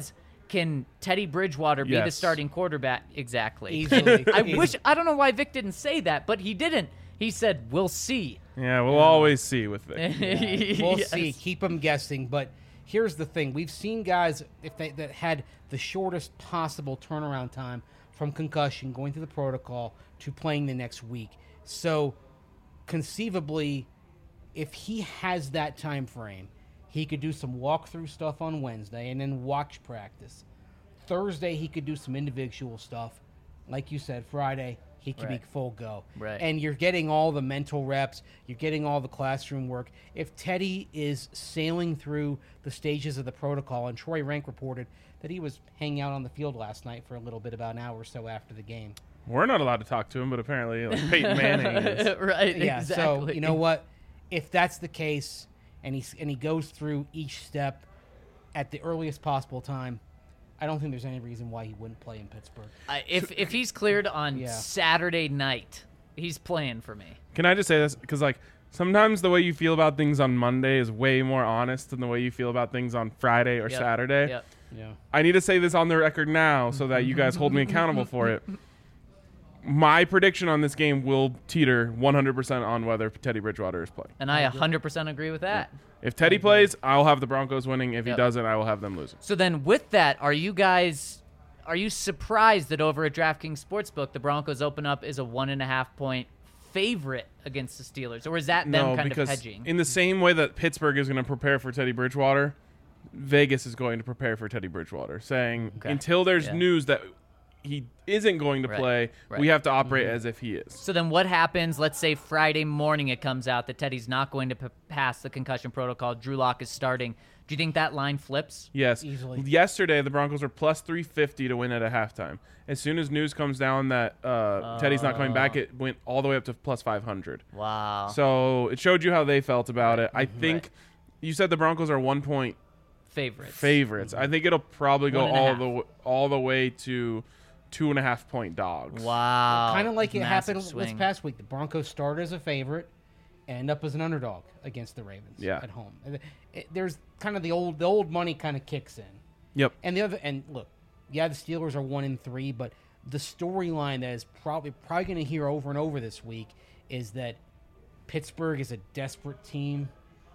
can Teddy Bridgewater be the Yes. starting quarterback? Exactly. Easily. I don't know why Vic didn't say that, but he didn't. He said, we'll see. Yeah, we'll always see with Vic. We'll Yes. see. Keep them guessing. But here's the thing: we've seen guys that had the shortest possible turnaround time from concussion, going through the protocol, to playing the next week. So, conceivably, if he has that time frame, he could do some walkthrough stuff on Wednesday and then watch practice. Thursday, he could do some individual stuff. Like you said, Friday, he could be Right. full go. Right. And you're getting all the mental reps. You're getting all the classroom work. If Teddy is sailing through the stages of the protocol, and Troy Rank reported that he was hanging out on the field last night for a little bit, about an hour or so after the game. We're not allowed to talk to him, but apparently Peyton Manning is. Right, Yeah, exactly. so you know what? If that's the case, and he goes through each step at the earliest possible time, I don't think there's any reason why he wouldn't play in Pittsburgh. If he's cleared on Yeah. Saturday night, he's playing for me. Can I just say this? Because, like, sometimes the way you feel about things on Monday is way more honest than the way you feel about things on Friday or Yep. Saturday. Yep. Yeah. I need to say this on the record now so that you guys hold me accountable for it. My prediction on this game will teeter 100% on whether Teddy Bridgewater is playing. And I 100% agree with that. If Teddy plays, I'll have the Broncos winning. If he Yep. doesn't, I will have them losing. So then with that, are you surprised that over at DraftKings Sportsbook, the Broncos open up as a 1.5 point favorite against the Steelers? Or is that them No, kind because of hedging? in the same way that Pittsburgh is going to prepare for Teddy Bridgewater, Vegas is going to prepare for Teddy Bridgewater, saying Okay. until there's Yeah. news that he isn't going to Right. play, Right. we have to operate as if he is. So then what happens, let's say Friday morning it comes out that Teddy's not going to pass the concussion protocol, Drew Lock is starting. Do you think that line flips? Yes. Easily. Yesterday, the Broncos were plus 350 to win at a halftime. As soon as news comes down that Teddy's not coming back, it went all the way up to plus 500. Wow. So it showed you how they felt about it. I think you said the Broncos are 1 point Favorites. favorites. I think it'll probably go 1.5. all the way to 2.5 point dogs. Wow. Kind of like it Massive happened this swing. past week. The Broncos started as a favorite, end up as an underdog against the Ravens Yeah. at home. There's kind of the old money kind of kicks in. Yep. And look, yeah, the Steelers are 1-3, but the storyline that is probably going to hear over and over this week is that Pittsburgh is a desperate team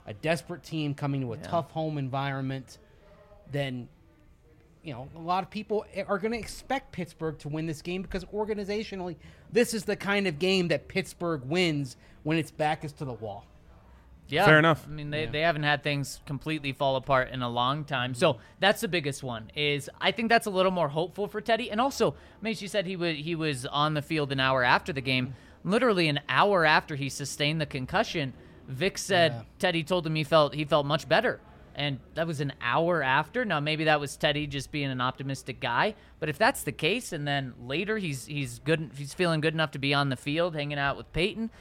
coming to a tough home environment. Then, you know, a lot of people are going to expect Pittsburgh to win this game because organizationally, this is the kind of game that Pittsburgh wins when its back is to the wall. Yeah. Fair enough. I mean, they haven't had things completely fall apart in a long time. So that's the biggest one. Is I think that's a little more hopeful for Teddy. And also, Mace, you said he was on the field an hour after the game. Literally an hour after he sustained the concussion, Vic said Teddy told him he felt much better. And that was an hour after. Now maybe that was Teddy just being an optimistic guy. But if that's the case, and then later he's feeling good enough to be on the field, hanging out with Peyton.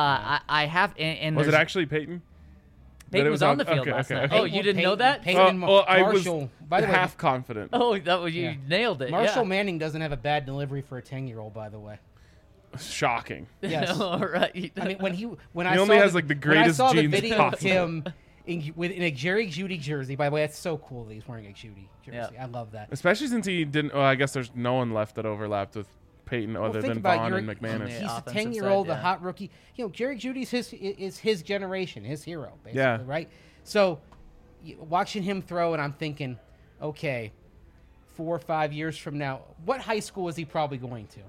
I have. And Was it there's- actually Peyton? Peyton That it was on the field okay, last okay, night. okay. Oh, you didn't know that? Peyton and I was Marshall. By the way, half confident. Oh, that was you nailed it. Marshall yeah. Manning doesn't have a bad delivery for a 10-year-old, by the way. Shocking. Yes. All right. I mean, when He I only saw has, like, the when I greatest saw the genes video possible. of him in a Jerry Jeudy jersey. By the way, that's so cool that he's wearing a Jeudy jersey. Yeah. I love that. Especially since he didn't. Well, I guess there's no one left that overlapped with Peyton other think than about Vaughn your- and McManus. Yeah. He's a offensive 10-year-old, side, a yeah. hot rookie. You know, Jerry Judy's is his generation, his hero, basically, Yeah. right? So, watching him throw, and I'm thinking, okay, 4 or 5 years from now, what high school is he probably going to?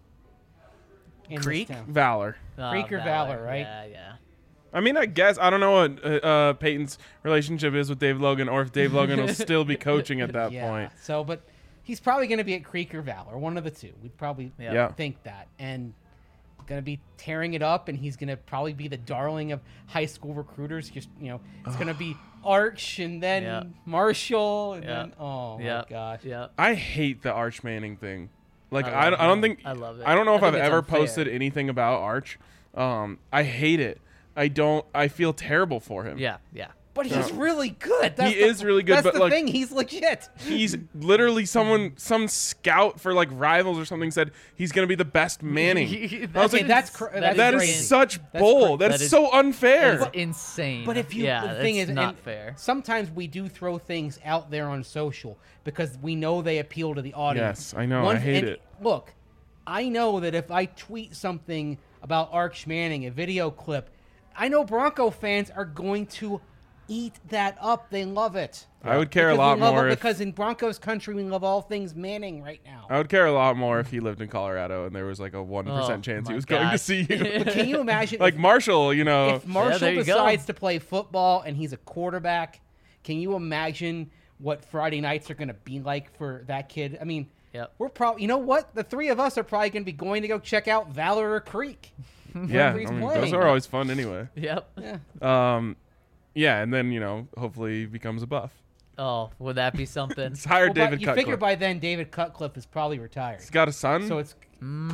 In this Creek? town? Valor. Creek or Valor, right? Yeah. I mean, I guess I don't know what Peyton's relationship is with Dave Logan, or if Dave Logan will still be coaching at that Yeah. point. So, but he's probably going to be at Creek or Valor, one of the two. We'd probably Yeah. think that, and going to be tearing it up, and he's going to probably be the darling of high school recruiters. Just it's going to be Arch and then Yeah. Marshall, and Yeah. then my Yeah. gosh, Yeah. I hate the Arch Manning thing. Like I I love don't it. think I love it. I don't know if I I've think it's ever unfair. posted anything about Arch. I hate it. I feel terrible for him. Yeah. Yeah. But he's really good. He is really good, That's but, the like, thing. He's legit. He's literally some scout for like Rivals or something said he's gonna be the best Manning. I was Okay, like, that's that crazy. is such That's bull. cra- That's so unfair. That is insane. But if you, yeah, the thing that's is, not and fair. Sometimes we do throw things out there on social because we know they appeal to the audience. Yes, I know. I hate and it. Look, I know that if I tweet something about Arch Manning, a video clip, I know Bronco fans are going to eat that up. They love it. I would care a Because lot we love more it if because in Broncos country we love all things Manning right now. I would care a lot more if he lived in Colorado and there was like a 1% Oh, chance he my was going to gosh. see you. But can you imagine Like Marshall, you know. if Marshall there you go. decides to play football and he's a quarterback? Can you imagine what Friday nights are going to be like for that kid? I mean, Yep. we're probably, you know what? The three of us are probably going to be going to go check out Valor Creek. yeah, wherever he's those playing. are always fun anyway. Yep. Yeah. Yeah, and then, hopefully he becomes a Buff. Oh, would that be something? Let's hire Well, David but you Cutcliffe. figure by then David Cutcliffe is probably retired. He's got a son? So it's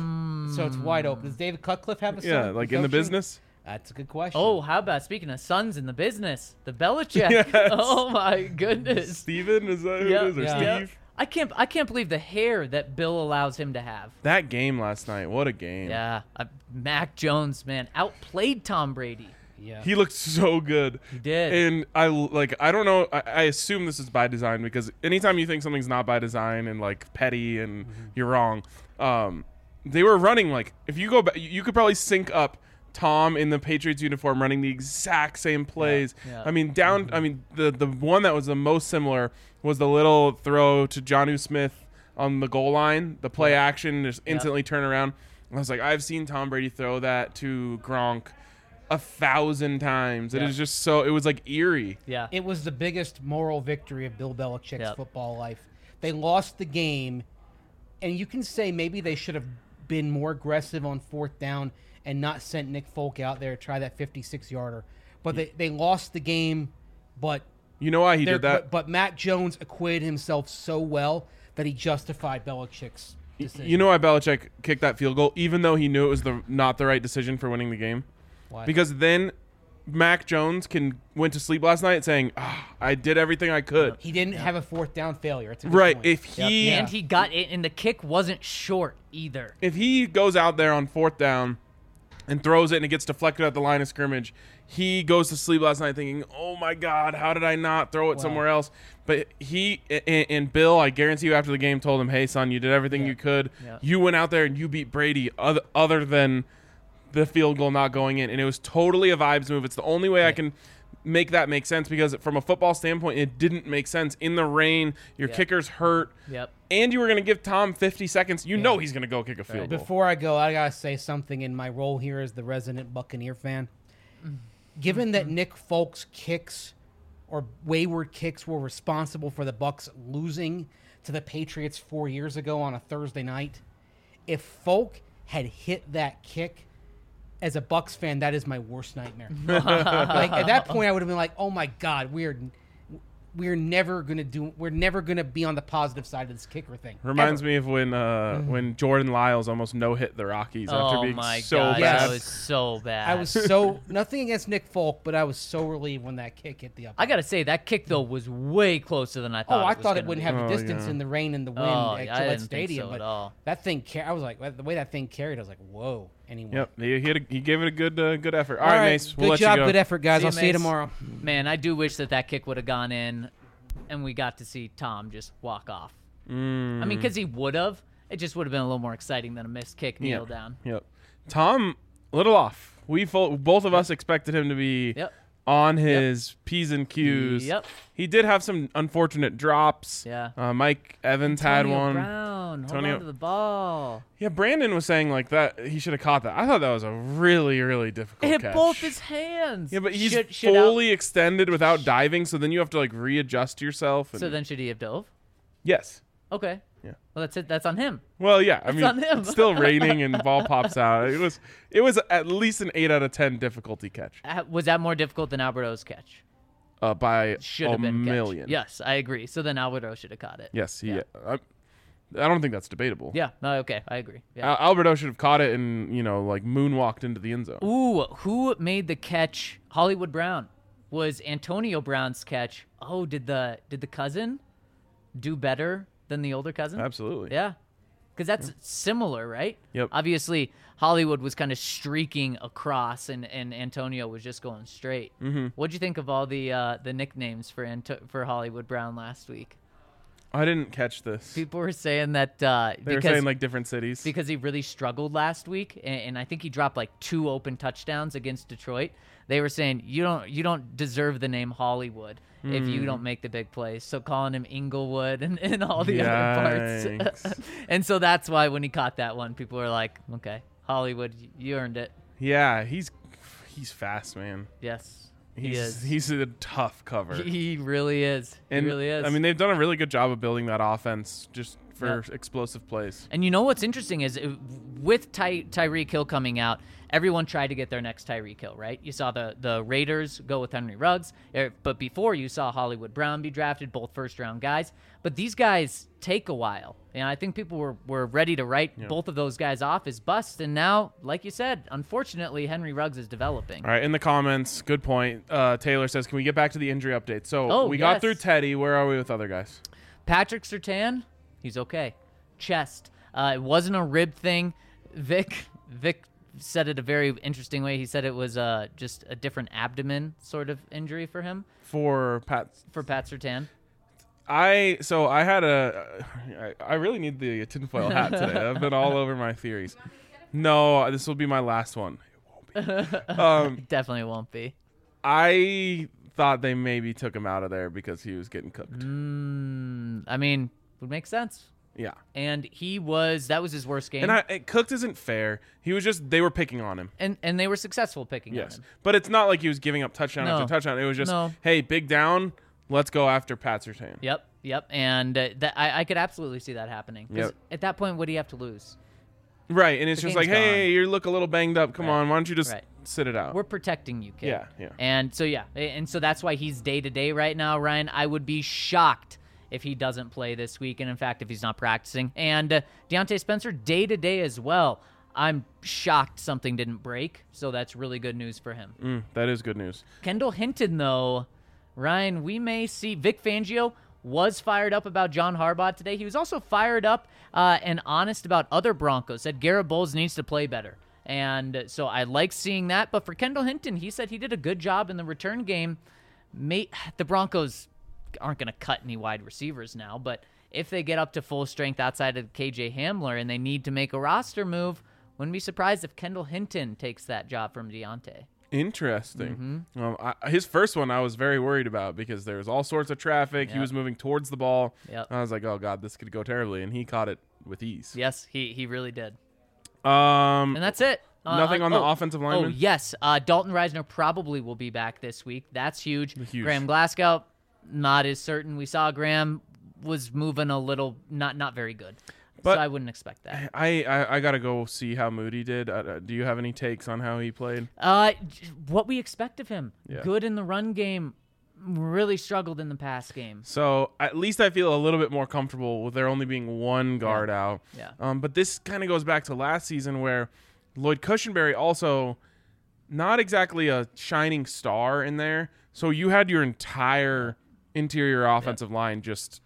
wide open. Does David Cutcliffe have a son? yeah, like in the coaching? business. That's a good question. Oh, how about speaking of sons in the business, the Belichick? Yes. Oh my goodness. Steven, is that who Yep, it is? Or yeah. Steve? I can't believe the hair that Bill allows him to have. That game last night, what a game. Yeah, Mac Jones, man, outplayed Tom Brady. yeah. He looked so good. He did. And I don't know, I assume this is by design because anytime you think something's not by design and like petty and you're wrong, they were running like, if you go back, you could probably sync up Tom in the Patriots uniform running the exact same plays. Yeah. I mean, the one that was the most similar was the little throw to Jonnu Smith on the goal line, the play action, just instantly turn around. I was like, I've seen Tom Brady throw that to Gronk 1,000 times. It Yeah. is just so, it was like eerie. Yeah. It was the biggest moral victory of Bill Belichick's Yep. football life. They lost the game, and you can say maybe they should have been more aggressive on fourth down and not sent Nick Folk out there to try that 56-yarder. But they lost the game, but You know why he did that? But Matt Jones acquitted himself so well that he justified Belichick's decision. You know why Belichick kicked that field goal, even though he knew it was not the right decision for winning the game? Why? Because then Mac Jones went to sleep last night saying, I did everything I could. he didn't have a fourth down failure. It's a good Right. point. If he And he got it, and the kick wasn't short either. if he goes out there on fourth down and throws it and it gets deflected at the line of scrimmage, he goes to sleep last night thinking, oh my God, how did I not throw it somewhere else? But he and Bill, I guarantee you after the game, told him, hey, son, you did everything you could. Yeah. You went out there and you beat Brady other than the field goal not going in. And it was totally a vibes move. It's the only way I can make that make sense because from a football standpoint, it didn't make sense. In the rain, your kicker's hurt. Yep. And you were going to give Tom 50 seconds. You know he's going to go kick a field goal. Before I go, I gotta say something in my role here as the resident Buccaneer fan. Given that Nick Folk's kicks or wayward kicks were responsible for the Bucs losing to the Patriots 4 years ago on a Thursday night, if Folk had hit that kick, as a Bucs fan, that is my worst nightmare. Like at that point, I would have been like, "Oh my God, we're never gonna be on the positive side of this kicker thing." Reminds Ever. me of when Jordan Lyles almost no-hit the Rockies after Oh being my so God, bad. that was so bad. I was so nothing against Nick Folk, but I was so relieved when that kick hit the up. I gotta say that kick though was way closer than I thought. I was thought it gonna wouldn't be. have the Oh, distance yeah. in the rain and the wind Oh, at yeah, I Gillette didn't think Stadium, so but at all. that thing, I was like, the way that thing carried, I was like, whoa. Anyway, Yep, he gave it a good effort. All All right, Mace, we'll good let job, you go. good effort, guys. See I'll you, see you Mace. tomorrow. Man, I do wish that kick would have gone in, and we got to see Tom just walk off. I mean, because he would have. It just would have been a little more exciting than a missed kick kneel down. Yep. Tom, a little off. Both of us expected him to be Yep. on his P's and Q's. Yep. He did have some unfortunate drops. Yeah. Mike Evans had Antonio one. Brown, hold Antonio- on to the ball. Yeah, Brandon was saying like that he should have caught that. I thought that was a really, really difficult It hit catch. both his hands. Yeah, but he's Should fully extended without diving, so then you have to like readjust yourself. And So then should he have dove? yes. Okay. Yeah. Well, that's it. That's on him. Well, yeah. I mean, on him. it's still raining and the ball pops out. It was at least an 8 out of 10 difficulty catch Was that more difficult than Alberto's catch? by Should a have been million. Catch. Yes, I agree. So then Alberto should have caught it. Yes. Yeah. I don't think that's debatable. Yeah. No, okay. I agree. Yeah. Alberto should have caught it and like moonwalked into the end zone. Ooh, who made the catch? Hollywood Brown. was Antonio Brown's catch. Oh, did the cousin do better than the older cousin? Absolutely. Yeah. Because that's similar, right? Yep. Obviously, Hollywood was kind of streaking across, and Antonio was just going straight. Mm-hmm. What'd you think of all the nicknames for Hollywood Brown last week? I didn't catch this. People were saying that They were saying like different cities. because he really struggled last week, and I think he dropped like 2 open touchdowns against Detroit. They were saying you don't deserve the name Hollywood if you don't make the big plays. So calling him Inglewood and all the other parts. And so that's why when he caught that one, people were like, okay, Hollywood, you earned it. Yeah, he's fast, man. Yes, he is. He's a tough cover. He really is. And, he really is. I mean, they've done a really good job of building that offense just for Yep. explosive plays. And you know what's interesting is with Tyreek Hill coming out, everyone tried to get their next Tyreek Hill, right? You saw the Raiders go with Henry Ruggs, but before you saw Hollywood Brown be drafted, both first-round guys. But these guys take a while. And I think people were ready to write both of those guys off as busts. And now, like you said, unfortunately, Henry Ruggs is developing. All right, in the comments, good point. Taylor says, can we get back to the injury update? So Oh, we yes. got through Teddy. Where are we with other guys? Patrick Surtain, he's okay. Chest. It wasn't a rib thing. Vic said it a very interesting way. He said it was just a different abdomen sort of injury for him, For Pat. for Pat Surtain. I really need the tinfoil hat today. I've been all over my theories. No, this will be my last one. It won't be. Definitely won't be. I thought they maybe took him out of there because he was getting cooked. I mean, would make sense. Yeah. And that was his worst game. And cooked isn't fair. He was they were picking on him. And they were successful picking on Yes. him. But it's not like he was giving up touchdown No. after touchdown. It was just, No. hey, big down, let's go after Pat Surtain. Yep. And I could absolutely see that happening. 'Cause Yep. at that point, what do you have to lose? Right, and it's The just like, game's hey, gone. you look a little banged up. Come Right. on, why don't you just Right. sit it out? We're protecting you, kid. Yeah. And so that's why he's day-to-day right now, Ryan. I would be shocked if he doesn't play this week, and in fact, if he's not practicing. And Deontay Spencer, day-to-day as well. I'm shocked something didn't break, so that's really good news for him. That is good news. Kendall Hinton, though, Ryan, we may see Vic Fangio was fired up about John Harbaugh today. He was also fired up and honest about other Broncos, said Garrett Bowles needs to play better. And so I like seeing that. But for Kendall Hinton, he said he did a good job in the return game. The Broncos aren't going to cut any wide receivers now, but if they get up to full strength outside of KJ Hamler and they need to make a roster move, wouldn't be surprised if Kendall Hinton takes that job from Deontay. Interesting. His first one I was very worried about because there was all sorts of traffic. He Yep. was moving towards the ball. Yep. I was like, oh, God, this could go terribly. And he caught it with ease. Yes, he really did. Um, And that's it. Nothing on the offensive lineman? Oh, yes. Dalton Reisner probably will be back this week. That's huge. Huge. Graham Glasgow, not as certain. We saw Graham was moving a little, not very good. But so I wouldn't expect that. I got to go see how Moody did. Do you have any takes on how he played? What we expect of him. Yeah. Good in the run game. Really struggled in the pass game. So at least I feel a little bit more comfortable with there only being one guard out. Yeah. But this kind of goes back to last season where Lloyd Cushenberry also not exactly a shining star in there. So you had your entire interior offensive line just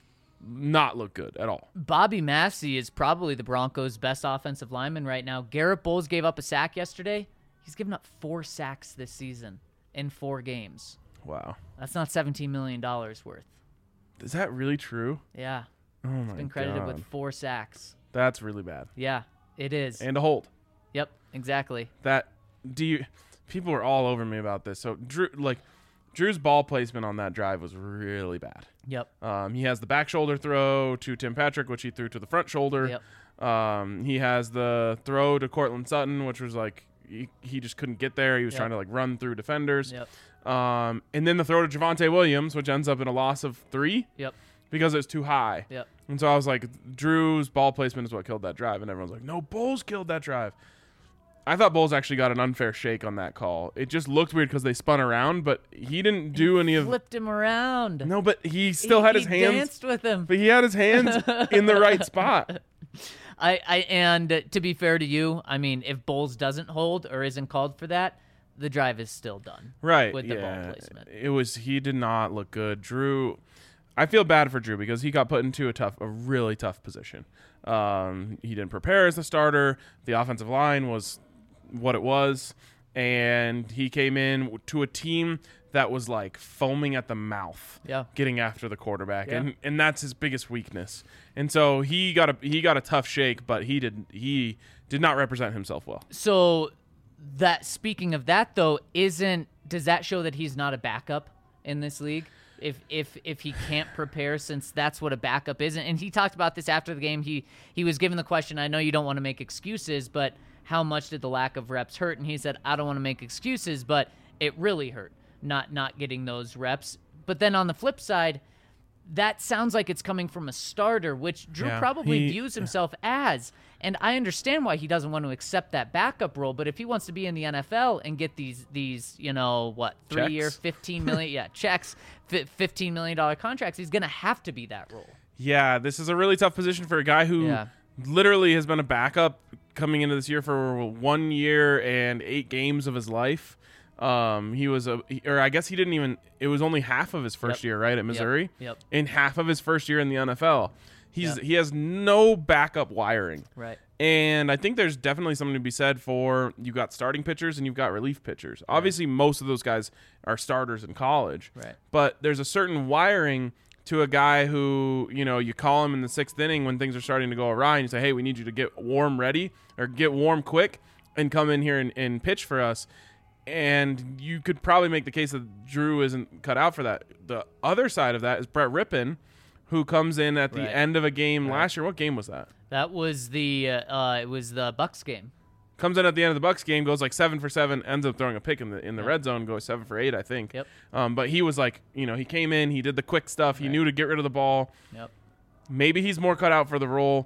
not look good at all. Bobby Massey is probably the Broncos' best offensive lineman right now. Garrett Bowles gave up a sack yesterday. He's given up 4 sacks this season in 4 games. Wow. That's not $17 million worth. Is that really true? Yeah. Oh my Been credited God. with 4 sacks. That's really bad. Yeah, it is. And a hold. Yep, exactly. People are all over me about this. So Drew's ball placement on that drive was really bad. Yep. He has the back shoulder throw to Tim Patrick, which he threw to the front shoulder. Yep. He has the throw to Cortland Sutton, which was like he just couldn't get there. He was Yep. trying to like run through defenders. Yep. And then the throw to Javonte Williams, which ends up in a loss of 3 Yep. because it was too high. Yep. And so I was like, Drew's ball placement is what killed that drive. And everyone's like, no, Bowles killed that drive. I thought Bowles actually got an unfair shake on that call. It just looked weird because they spun around, but he didn't do any of. Flipped him around. No, but he still had his He hands. danced with him. But he had his hands in the right spot. And to be fair to you, I mean, if Bowles doesn't hold or isn't called for that, the drive is still done. Right. With the ball placement. He did not look good. Drew, I feel bad for Drew because he got put into a really tough position. He didn't prepare as a starter. The offensive line was what it was. And he came in to a team that was like foaming at the mouth, getting after the quarterback, and that's his biggest weakness. And so he got a tough shake, but he did not represent himself well. So that speaking of that though, does that show that he's not a backup in this league? If he can't prepare, since that's what a backup is, and he talked about this after the game. He was given the question, I know you don't want to make excuses, but how much did the lack of reps hurt? And he said, I don't want to make excuses, but it really hurt not getting those reps. But then on the flip side, that sounds like it's coming from a starter, which Drew probably views himself as. And I understand why he doesn't want to accept that backup role. But if he wants to be in the NFL and get these 3-year, $15 million, checks, $15 million contracts, he's going to have to be that role. Yeah, this is a really tough position for a guy who literally has been a backup coming into this year for 1 year and 8 games of his life. He was I guess he didn't even. It was only half of his first year, right, at Missouri. Yep. And half of his first year in the NFL. He has no backup wiring. Right. And I think there's definitely something to be said for you got starting pitchers and you've got relief pitchers. Right. Obviously, most of those guys are starters in college. Right. But there's a certain wiring to a guy who, you call him in the 6th inning when things are starting to go awry and you say, hey, we need you to get warm quick and come in here and pitch for us. And you could probably make the case that Drew isn't cut out for that. The other side of that is Brett Rippon, who comes in at the end of a game last year. What game was that? That was it was the Bucks game. Comes in at the end of the Bucks game, goes like 7 for 7, ends up throwing a pick in the red zone, goes 7 for 8, I think. Yep. But he was like, he came in, he did the quick stuff, he knew to get rid of the ball. Yep. Maybe he's more cut out for the role.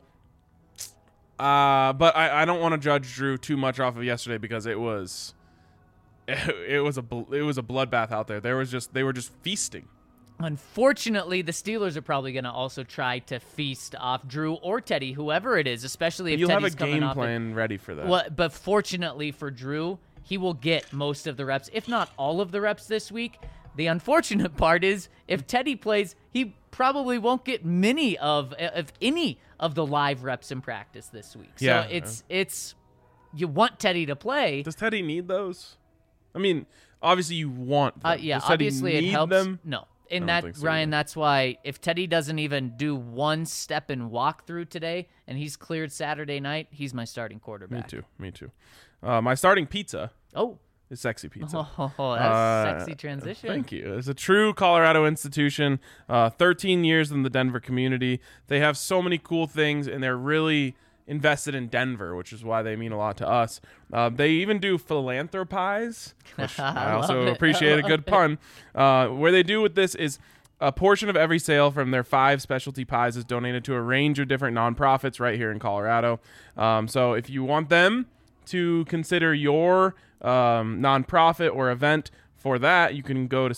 But I don't want to judge Drew too much off of yesterday because it was a bloodbath out there. They were just feasting. Unfortunately, the Steelers are probably going to also try to feast off Drew or Teddy, whoever it is, especially if You'll Teddy's have a game plan ready for that. Well, but fortunately for Drew, he will get most of the reps, if not all of the reps this week. The unfortunate part is if Teddy plays, he probably won't get many of any of the live reps in practice this week. So it's you want Teddy to play. Does Teddy need those? I mean, obviously you want them. Yeah, Does obviously Teddy it need helps. them? No. And that, so, Ryan, that's why if Teddy doesn't even do one step and walk through today and he's cleared Saturday night, he's my starting quarterback. Me too. My starting pizza is Sexy Pizza. Oh, that's a sexy transition. Thank you. It's a true Colorado institution, 13 years in the Denver community. They have so many cool things, and they're really invested in Denver, which is why they mean a lot to us. They even do philanthropies, which I also appreciate a good pun. Where they do with this is a portion of every sale from their 5 specialty pies is donated to a range of different nonprofits right here in Colorado. So if you want them to consider your nonprofit or event for that, you can go to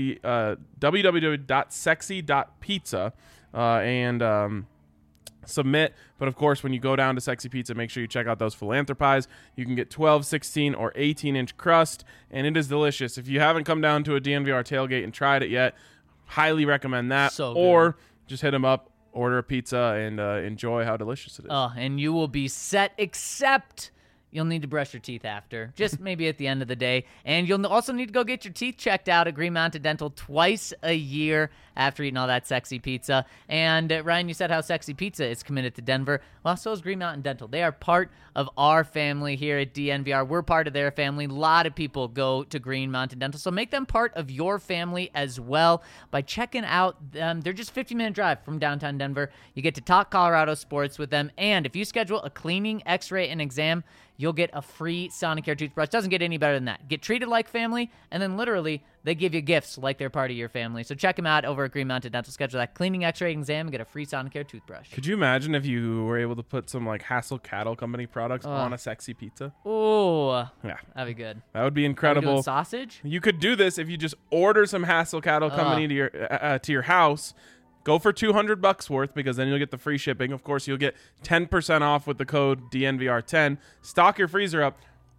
www.sexy.pizza and submit. But of course, when you go down to Sexy Pizza, make sure you check out those philanthropies. You can get 12, 16, or 18-inch crust, and it is delicious. If you haven't come down to a DNVR tailgate and tried it yet, highly recommend that. So good. Or just hit them up, order a pizza, and enjoy how delicious it is. And you will be set, except you'll need to brush your teeth after, just maybe at the end of the day. And you'll also need to go get your teeth checked out at Green Mountain Dental twice a year after eating all that Sexy Pizza. And Ryan, you said how Sexy Pizza is committed to Denver. Well, so is Green Mountain Dental. They are part of our family here at DNVR. We're part of their family. A lot of people go to Green Mountain Dental, so make them part of your family as well by checking out them. They're just a 15-minute drive from downtown Denver. You get to talk Colorado sports with them, and if you schedule a cleaning, x-ray, and exam, you'll get a free Sonicare toothbrush. Doesn't get any better than that. Get treated like family, and then literally they give you gifts like they're part of your family. So check them out over at Green Mountain Dental. Schedule that cleaning, x-ray, and exam, and get a free Sonicare toothbrush. Could you imagine if you were able to put some like Hassel Cattle Company products on a Sexy Pizza? Oh, yeah, that'd be good. That would be incredible. Are we doing sausage? You could do this if you just order some Hassel Cattle Company to your house. Go for $200 worth because then you'll get the free shipping. Of course, you'll get 10% off with the code DNVR10. Stock your freezer up.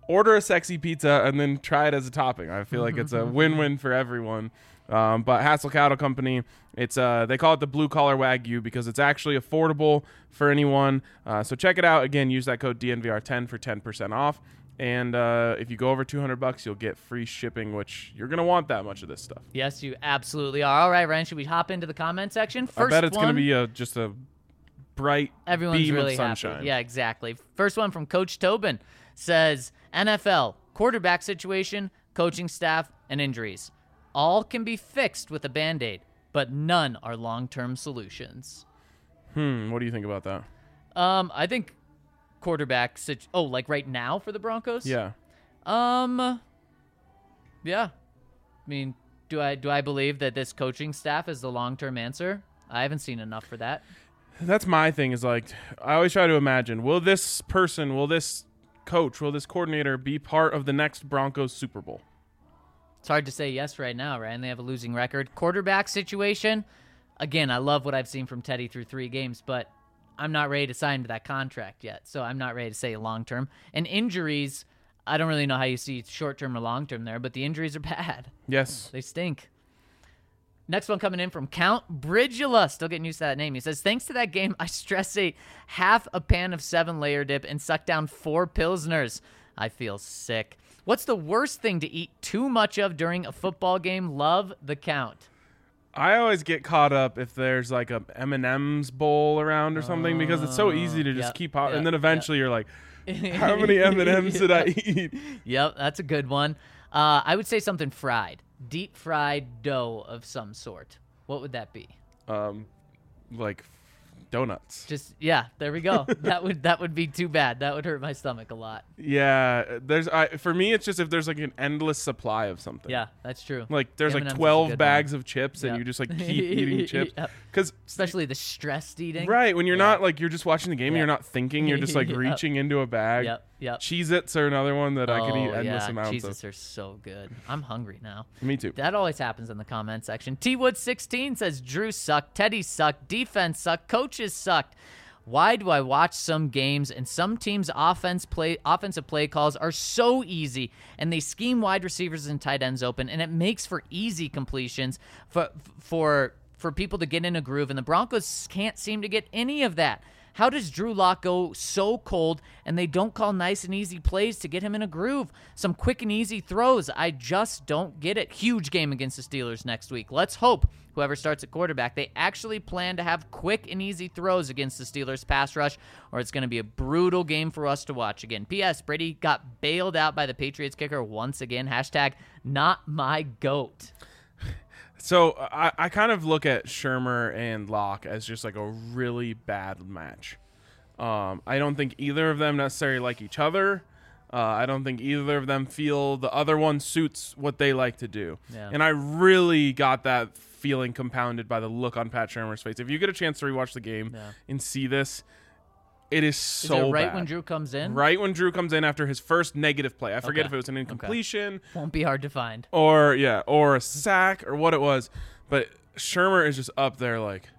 order a sexy pizza and then try it as a topping. I feel like it's a win-win for everyone. But Hassel Cattle Company, it's they call it the blue collar Wagyu because it's actually affordable for anyone. So check it out. Again, use that code DNVR10 for 10% off. And if you go over $200, you'll get free shipping, which you're gonna want that much of this stuff. Yes, you absolutely are. All right, Ryan, should we hop into the comment section? First I bet it's one, gonna be just a bright everyone's beam really of sunshine. happy. Yeah, exactly. First one from Coach Tobin says NFL quarterback situation, coaching staff, and injuries. All can be fixed with a Band-Aid, but none are long-term solutions. What do you think about that? I think quarterback like right now for the Broncos? Yeah. Yeah. I mean, do I believe that this coaching staff is the long-term answer? I haven't seen enough for that. That's my thing is like, I always try to imagine, will this coach, will this coordinator be part of the next Broncos Super Bowl? It's hard to say yes right now, right? And they have a losing record. Quarterback situation, again, I love what I've seen from Teddy through 3 games, but I'm not ready to sign to that contract yet, so I'm not ready to say long-term. And injuries, I don't really know how you see short-term or long-term there, but the injuries are bad. Yes. They stink. Next one coming in from Count Bridgula. Still getting used to that name. He says, thanks to that game, I stress ate half a pan of 7-layer dip and sucked down 4 Pilsners. I feel sick. What's the worst thing to eat too much of during a football game? Love the Count. I always get caught up if there's like a M&M's bowl around or something because it's so easy to just keep and then eventually you're like, how many M&M's did I eat? Yep, that's a good one. I would say something fried. Deep fried dough of some sort. What would that be? Like donuts. Just there we go. that would be too bad. That would hurt my stomach a lot. Yeah, for me it's just if there's like an endless supply of something. Yeah, that's true. Like there's like M&Ms is a 12 good bags one. of chips and Yep. you just like keep eating chips Yep. cuz Especially the stressed eating. right, when you're not like you're just watching the game and you're not thinking, you're just like Yep. reaching into a bag. Yep. Cheez-Its are another one that I could eat endless amounts Cheez-Its of. are so good. I'm hungry now. Me too. That always happens in the comment section. T-Wood16 says, Drew sucked, Teddy sucked, defense sucked, coaches sucked. Why do I watch some games and some teams' offensive play calls are so easy and they scheme wide receivers and tight ends open and it makes for easy completions for people to get in a groove and the Broncos can't seem to get any of that. How does Drew Lock go so cold and they don't call nice and easy plays to get him in a groove? Some quick and easy throws. I just don't get it. Huge game against the Steelers next week. Let's hope whoever starts at quarterback, they actually plan to have quick and easy throws against the Steelers pass rush, or it's going to be a brutal game for us to watch again. P.S. Brady got bailed out by the Patriots kicker once again. Hashtag not my GOAT. So I kind of look at Shermer and Locke as just like a really bad match. I don't think either of them necessarily like each other. I don't think either of them feel the other one suits what they like to do. Yeah. And I really got that feeling compounded by the look on Pat Shermer's face. If you get a chance to rewatch the game and see this, it is so Is it right bad. when Drew comes in? Right when Drew comes in after his first negative play. I forget if it was an incompletion. Won't be hard to find. Or a sack or what it was. But Shermer is just up there like,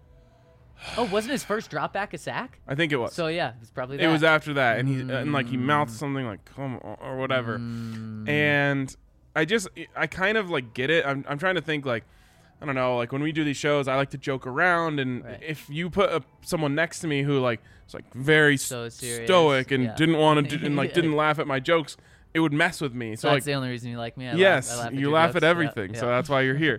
Oh, wasn't his first drop back a sack? I think it was. So yeah, it was probably that. It was after that, and he mouthed something like "come on" or whatever, and I kind of like get it. I'm trying to think like, I don't know, like when we do these shows, I like to joke around, and if you put someone next to me who like was like very So serious. stoic and didn't want to and like Yeah. didn't laugh at my jokes, it would mess with me. So that's like, the only reason you like me. I yes, laugh at you your laugh jokes. at Yeah, everything, so yeah. that's why you're here.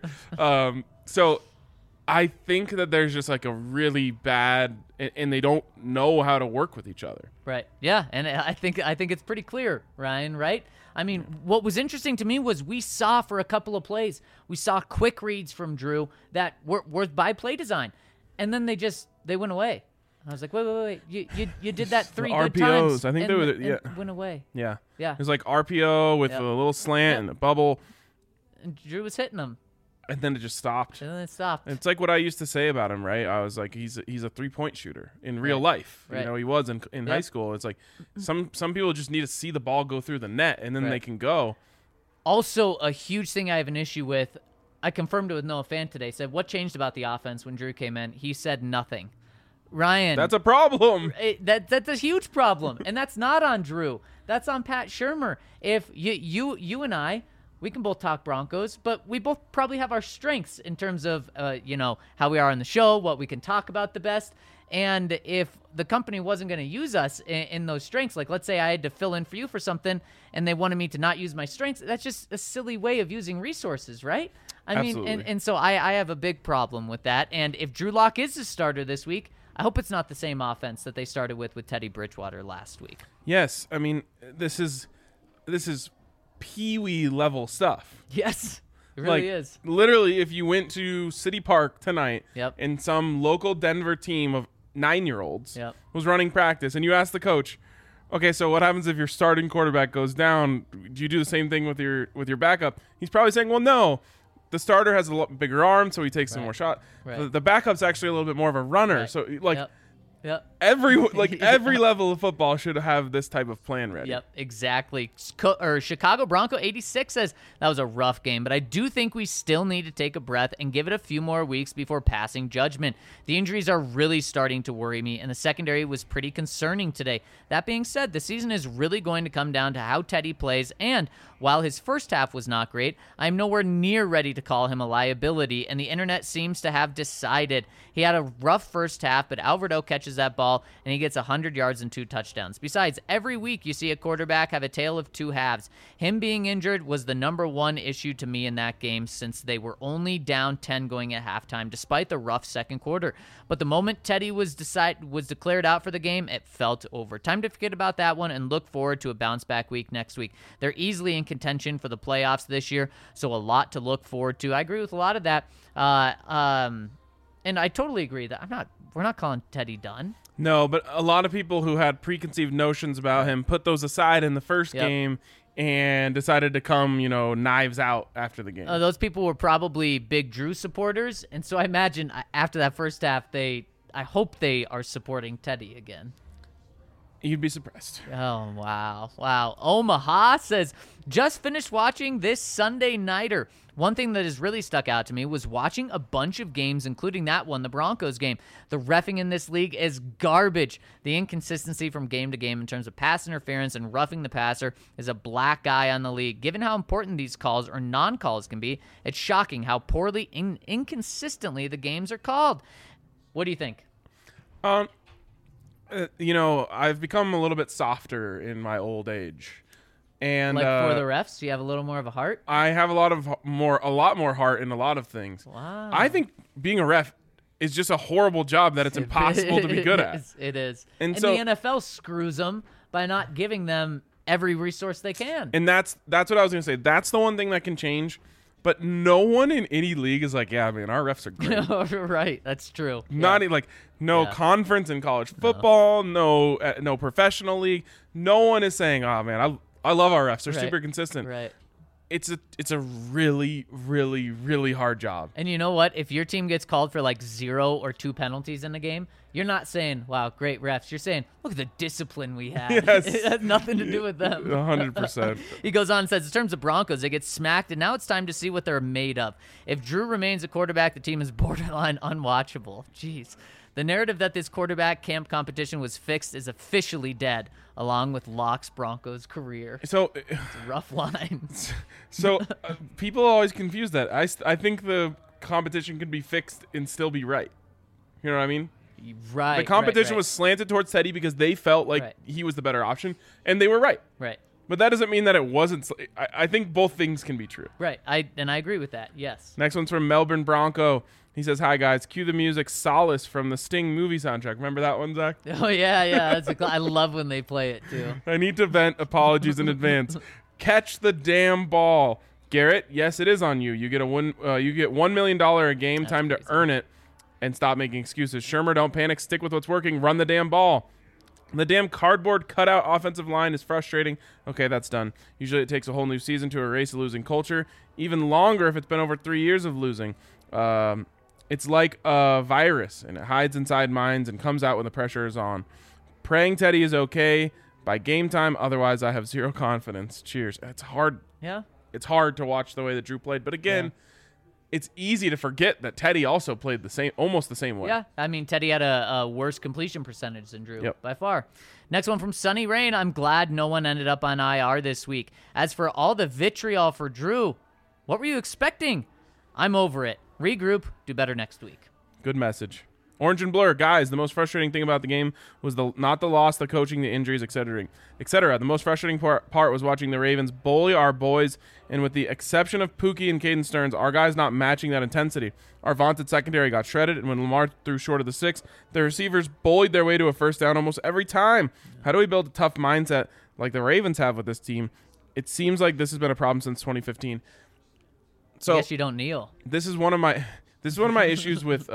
So I think that there's just like a really bad, and they don't know how to work with each other. Right. Yeah, and I think it's pretty clear, Ryan, right? I mean, what was interesting to me was we saw for a couple of plays, we saw quick reads from Drew that were by play design. And then they went away. I was like, wait. You did that 3 good RPOs, times. I think and went away. Yeah. Yeah. It was like RPO with a little slant and a bubble, And Drew was hitting them. and then it just stopped. And then it stopped. It's like what I used to say about him, right? I was like, he's a 3-point shooter in real life. Right. You know, he was in high school. It's like some people just need to see the ball go through the net, and then they can go. Also, a huge thing I have an issue with, I confirmed it with Noah Fant today, said, what changed about the offense when Drew came in? He said nothing. Ryan. That's a problem. That's a huge problem, and that's not on Drew. That's on Pat Shurmur. If you and I, we can both talk Broncos, but we both probably have our strengths in terms of how we are on the show, what we can talk about the best. And if the company wasn't going to use us in those strengths, like let's say I had to fill in for you for something and they wanted me to not use my strengths, that's just a silly way of using resources, right? I mean, and so I have a big problem with that. And if Drew Lock is the starter this week, I hope it's not the same offense that they started with Teddy Bridgewater last week. Yes, I mean, this is peewee level stuff. Yes, it really is. Literally, if you went to City Park tonight and some local Denver team of 9-year-olds was running practice, and you asked the coach, okay, so what happens if your starting quarterback goes down? Do you do the same thing with your backup? He's probably saying, well, no. The starter has a lot bigger arm, so he takes some more shot. Right. The backup's actually a little bit more of a runner. Right. So, every level of football should have this type of plan ready. Yep, exactly. Chicago Bronco 86 says that was a rough game, but I do think we still need to take a breath and give it a few more weeks before passing judgment. The injuries are really starting to worry me, and the secondary was pretty concerning today. That being said, the season is really going to come down to how Teddy plays, and while his first half was not great, I'm nowhere near ready to call him a liability, and the internet seems to have decided. He had a rough first half, but Alvarado catches that ball, and he gets 100 yards and 2 touchdowns. Besides, every week you see a quarterback have a tale of two halves. Him being injured was the number one issue to me in that game, since they were only down 10 going at halftime, despite the rough second quarter. But the moment Teddy was declared out for the game, it felt over. Time to forget about that one and look forward to a bounce-back week next week. They're easily in contention for the playoffs this year, so a lot to look forward to. I agree with a lot of that. And I totally agree that we're not calling Teddy done. No, but a lot of people who had preconceived notions about him put those aside in the first game and decided to come, knives out after the game. Those people were probably big Drew supporters, and so I imagine after that first half, I hope they are supporting Teddy again. You'd be surprised. Oh, wow. Omaha says, just finished watching this Sunday Nighter. One thing that has really stuck out to me was watching a bunch of games, including that one, the Broncos game. The reffing in this league is garbage. The inconsistency from game to game in terms of pass interference and roughing the passer is a black eye on the league. Given how important these calls or non-calls can be, it's shocking how poorly and inconsistently the games are called. What do you think? I've become a little bit softer in my old age. And for the refs, you have a little more of a heart? I have a lot more heart in a lot of things. Wow. I think being a ref is just a horrible job that it's impossible to be good at. It is. And so, the NFL screws them by not giving them every resource they can. And that's what I was going to say. That's the one thing that can change. But no one in any league is like, yeah, man, our refs are great. Right, that's true. Conference in college football, no professional league. No one is saying, oh, man, I love our refs. They're super consistent. Right. It's a really, really, really hard job. And you know what? If your team gets called for like 0 or 2 penalties in a game, you're not saying, wow, great refs. You're saying, look at the discipline we had. Yes. It has nothing to do with them. 100%. He goes on and says, in terms of Broncos, they get smacked, and now it's time to see what they're made of. If Drew remains a quarterback, the team is borderline unwatchable. Jeez. The narrative that this quarterback camp competition was fixed is officially dead, along with Locke's Broncos career. So it's a rough line. So people always confuse that. I think the competition could be fixed and still be right. You know what I mean? Right. The competition was slanted towards Teddy because they felt like he was the better option, and they were right. Right. But that doesn't mean that it wasn't. I think both things can be true. Right. I agree with that. Yes. Next one's from Melbourne Bronco. He says, hi, guys. Cue the music Solace from the Sting movie soundtrack. Remember that one, Zach? Oh, yeah. I love when they play it, too. I need to vent. Apologies in advance. Catch the damn ball. Garrett, yes, it is on you. You get $1 million a game. That's time crazy. To earn it and stop making excuses. Shurmur, don't panic. Stick with what's working. Run the damn ball. The damn cardboard cutout offensive line is frustrating. Okay, that's done. Usually it takes a whole new season to erase a losing culture. Even longer if it's been over 3 years of losing. It's like a virus, and it hides inside minds and comes out when the pressure is on. Praying Teddy is okay by game time. Otherwise, I have zero confidence. Cheers. It's hard. Yeah. It's hard to watch the way that Drew played. But again, it's easy to forget that Teddy also played almost the same way. Yeah, I mean, Teddy had a worse completion percentage than Drew by far. Next one from Sunny Rain. I'm glad no one ended up on IR this week. As for all the vitriol for Drew, what were you expecting? I'm over it. Regroup, do better next week. Good message. Orange and Blur, guys, the most frustrating thing about the game was not the loss, the coaching, the injuries, etc. The most frustrating part was watching the Ravens bully our boys, and with the exception of Pookie and Caden Stearns, our guys not matching that intensity. Our vaunted secondary got shredded, and when Lamar threw short of the 6, the receivers bullied their way to a first down almost every time. How do we build a tough mindset like the Ravens have with this team? It seems like this has been a problem since 2015. So I guess you don't kneel. This is one of my issues with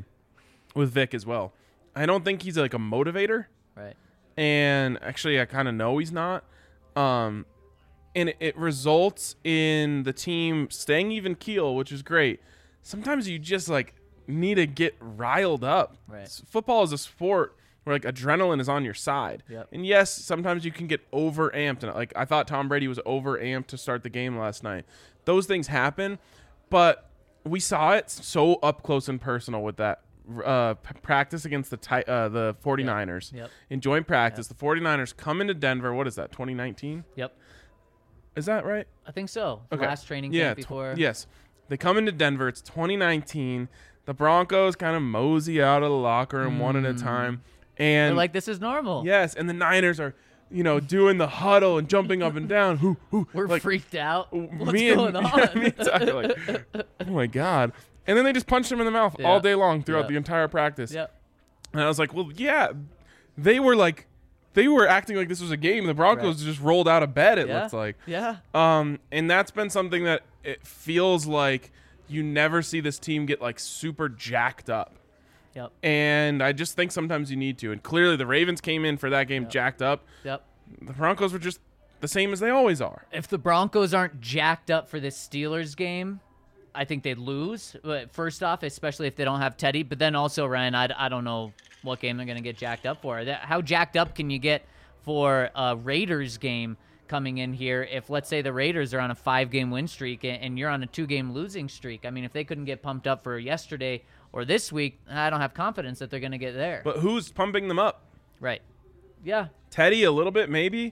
Vic as well. I don't think he's like a motivator. Right. And actually I kind of know he's not. And it results in the team staying even keel, which is great. Sometimes you just like need to get riled up. Right. Football is a sport where like adrenaline is on your side. Yep. And yes, sometimes you can get over amped. And like I thought Tom Brady was over amped to start the game last night. Those things happen, but we saw it so up close and personal with that practice against the 49ers. Yep. In joint practice. The 49ers come into Denver. What is that, 2019? Yep. Is that right? I think so. Okay. Last training camp before. Yes. They come into Denver. It's 2019. The Broncos kind of mosey out of the locker room one at a time. And They're like, this is normal. yes, and the Niners are, doing the huddle and jumping up and down. We're like, freaked out. What's me and- going on? me and Tyler are like, oh my God. And then they just punched him in the mouth all day long throughout the entire practice. Yep. And I was like, well, yeah, they were acting like this was a game. The Broncos just rolled out of bed, it looks like. Yeah. And that's been something that it feels like you never see this team get like super jacked up. Yep. And I just think sometimes you need to. And clearly the Ravens came in for that game jacked up. Yep. The Broncos were just the same as they always are. If the Broncos aren't jacked up for this Steelers game, I think they'd lose. But first off, especially if they don't have Teddy. But then also, Ryan, I don't know what game they're going to get jacked up for. How jacked up can you get for a Raiders game coming in here if, let's say, the Raiders are on a 5-game win streak and you're on a 2-game losing streak? I mean, if they couldn't get pumped up for yesterday or this week, I don't have confidence that they're going to get there. But who's pumping them up? Right. Yeah. Teddy a little bit, maybe.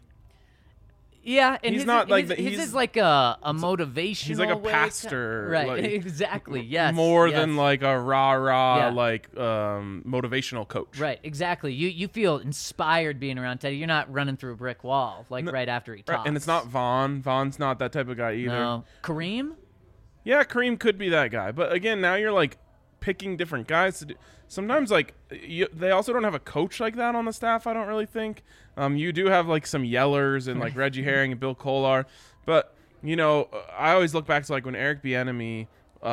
Yeah, and He's his, not like his, the- his he's- is like a motivational. He's like a way pastor, right? like, Exactly. Yes. More yes. than like a rah-rah, Yeah. like motivational coach. Right. Exactly. You feel inspired being around Teddy. You're not running through a brick wall like right after he talks. Right. And it's not Vaughn. Vaughn's not that type of guy either. No. Kareem. Yeah, Kareem could be that guy. But again, now you're like picking different guys to do. Sometimes like they also don't have a coach like that on the staff, I don't really think. You do have like some yellers and like Reggie Herring and Bill Kolar. But, I always look back to like when Eric Bieniemy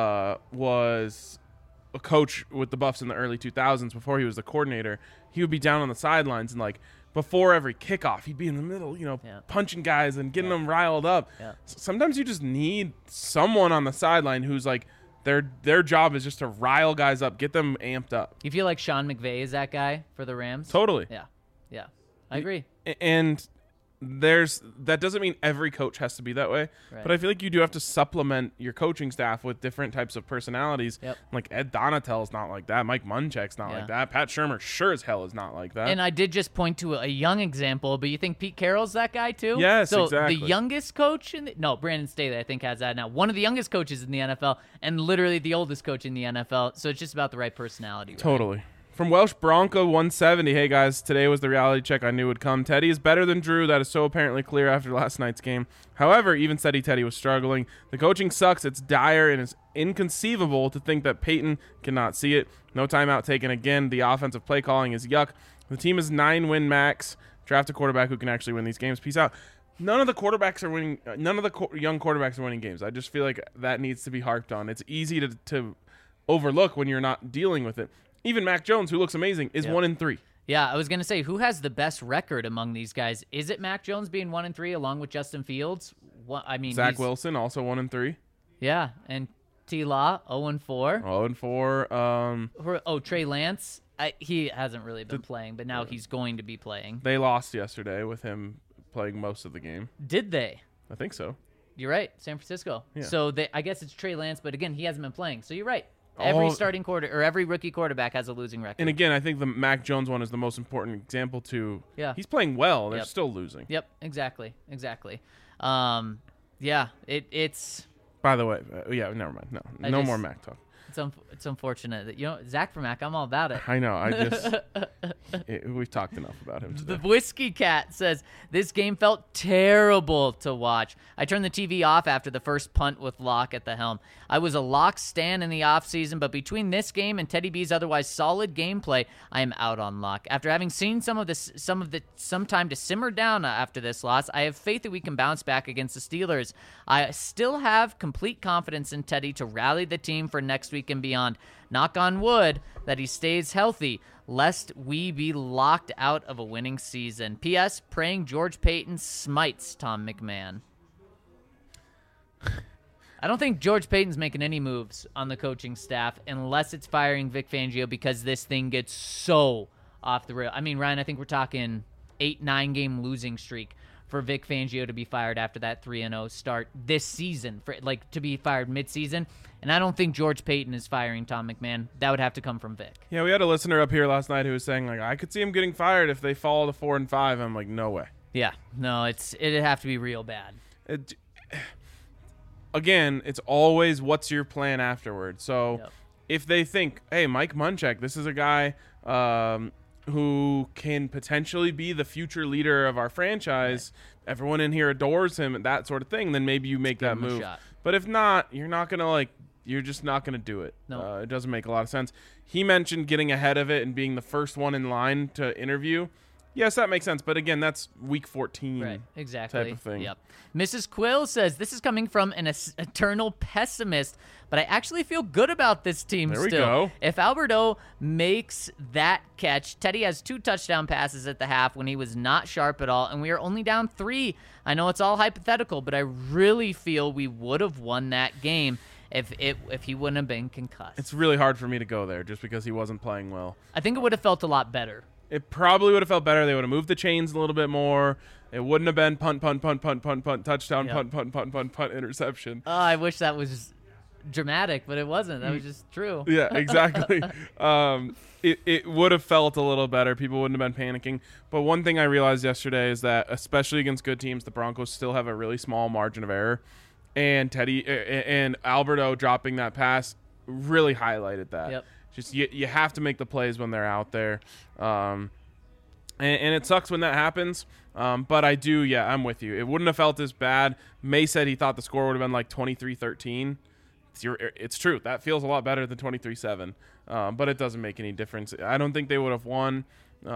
was a coach with the Buffs in the early 2000s before he was the coordinator. He would be down on the sidelines and like before every kickoff, he'd be in the middle, punching guys and getting them riled up. Yeah. Sometimes you just need someone on the sideline who's like, their job is just to rile guys up, get them amped up. You feel like Sean McVay is that guy for the Rams? Totally. Yeah. Yeah. I agree. And that doesn't mean every coach has to be that way, Right. but I feel like you do have to supplement your coaching staff with different types of personalities. Yep. Like Ed Donatell's not like that. Mike Munchak's not Yeah. like that. Pat Shurmur sure as hell is not like that. And I did just point to a young example, but you think Pete Carroll's that guy too? Yes, so exactly. the youngest coach Brandon Staley, I think, has that now. One of the youngest coaches in the NFL and literally the oldest coach in the NFL. So it's just about the right personality. Right? Totally. From Welsh Bronco 170, hey guys, today was the reality check I knew would come. Teddy is better than Drew. That is so apparently clear after last night's game. However, even Steady Teddy was struggling. The coaching sucks. It's dire and it's inconceivable to think that Peyton cannot see it. No timeout taken again. The offensive play calling is yuck. The team is 9-win max. Draft a quarterback who can actually win these games. Peace out. None of the quarterbacks are winning. None of the young quarterbacks are winning games. I just feel like that needs to be harped on. It's easy to overlook when you're not dealing with it. Even Mac Jones, who looks amazing, is 1-3. Yeah, I was going to say, who has the best record among these guys? Is it Mac Jones being 1-3 along with Justin Fields? Zach Wilson, also 1-3. Yeah, and T-Law, 0-4. 0-4. Trey Lance, he hasn't really been playing, but now he's going to be playing. They lost yesterday with him playing most of the game. Did they? I think so. You're right, San Francisco. Yeah. So I guess it's Trey Lance, but again, he hasn't been playing. So you're right. Every every rookie quarterback has a losing record. And again, I think the Mac Jones one is the most important example too. Yeah. He's playing well. They're Yep. still losing. Yep, exactly. Yeah, it's By the way, never mind. No more Mac talk. it's unfortunate that Zach for Mac. I'm all about it. I know. I just we've talked enough about him today. The Whiskey Cat says, this game felt terrible to watch. I turned the TV off after the first punt with Locke at the helm. I was a Locke stan in the offseason, but between this game and Teddy B's otherwise solid gameplay, I am out on Locke. After having seen some time to simmer down after this loss, I have faith that we can bounce back against the Steelers. I still have complete confidence in Teddy to rally the team for next week and beyond. Knock on wood that he stays healthy, lest we be locked out of a winning season. P.S. Praying George Payton smites Tom McMahon. I don't think George Payton's making any moves on the coaching staff unless it's firing Vic Fangio, because this thing gets so off the rail. I mean, Ryan, I think we're talking 8-9 game losing streak for Vic Fangio to be fired after that 3-0 start this season, to be fired mid-season. And I don't think George Payton is firing Tom McMahon. That would have to come from Vic. Yeah, we had a listener up here last night who was saying, I could see him getting fired if they fall to 4-5. I'm like, no way. Yeah, no, it'd have to be real bad. Again, it's always what's your plan afterward. So if they think, hey, Mike Munchak, this is a guy who can potentially be the future leader of our franchise, everyone in here adores him and that sort of thing, then maybe you make that move. But if not, you're not going to you're just not going to do it. No. It doesn't make a lot of sense. He mentioned getting ahead of it and being the first one in line to interview. Yes, that makes sense. But again, that's week 14 right, exactly. type of thing. Yep. Mrs. Quill says, this is coming from an eternal pessimist, but I actually feel good about this team There we still. go. If Alberto makes that catch, Teddy has 2 touchdown passes at the half when he was not sharp at all, and we are only down 3. I know it's all hypothetical, but I really feel we would have won that game if he wouldn't have been concussed. It's really hard for me to go there just because he wasn't playing well. I think it would have felt a lot better. It probably would have felt better. They would have moved the chains a little bit more. It wouldn't have been punt, touchdown, Yep. punt, interception. I wish that was dramatic, but it wasn't. That was just true. Yeah, exactly. It would have felt a little better. People wouldn't have been panicking. But one thing I realized yesterday is that, especially against good teams, the Broncos still have a really small margin of error. And Teddy and Alberto dropping that pass really highlighted that. Yep. Just you have to make the plays when they're out there. And it sucks when that happens. But I'm with you. It wouldn't have felt as bad. May said he thought the score would have been like 23-13. It's true. That feels a lot better than 23-7. But it doesn't make any difference. I don't think they would have won.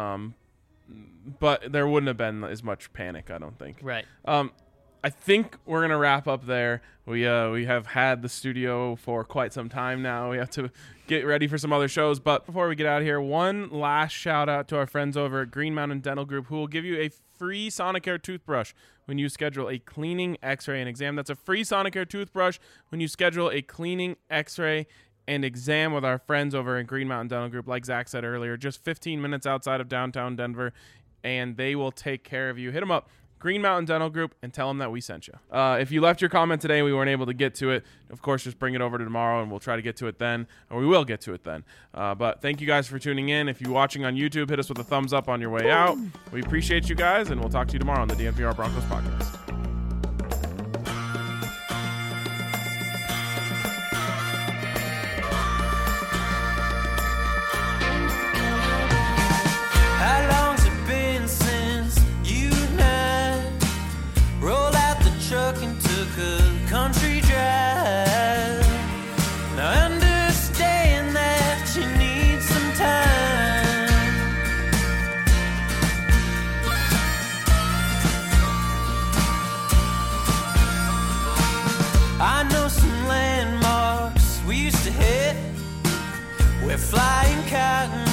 But there wouldn't have been as much panic, I don't think. Right. I think we're going to wrap up there. We have had the studio for quite some time now. We have to get ready for some other shows. But before we get out of here, one last shout out to our friends over at Green Mountain Dental Group, who will give you a free Sonicare toothbrush when you schedule a cleaning, x-ray, and exam. That's a free Sonicare toothbrush when you schedule a cleaning, x-ray, and exam with our friends over at Green Mountain Dental Group. Like Zach said earlier, just 15 minutes outside of downtown Denver, and they will take care of you. Hit them up. Green Mountain Dental Group, and tell them that we sent you. If you left your comment today and we weren't able to get to it, of course, just bring it over to tomorrow and we'll try to get to it then, or we will get to it then. But thank you guys for tuning in. If you're watching on YouTube, hit us with a thumbs up on your way out. We appreciate you guys, and we'll talk to you tomorrow on the DNVR Broncos podcast. How long's it been since you and I rolled out the truck and took a country drive? Now I understand that you need some time. I know some landmarks we used to hit. We're flying cotton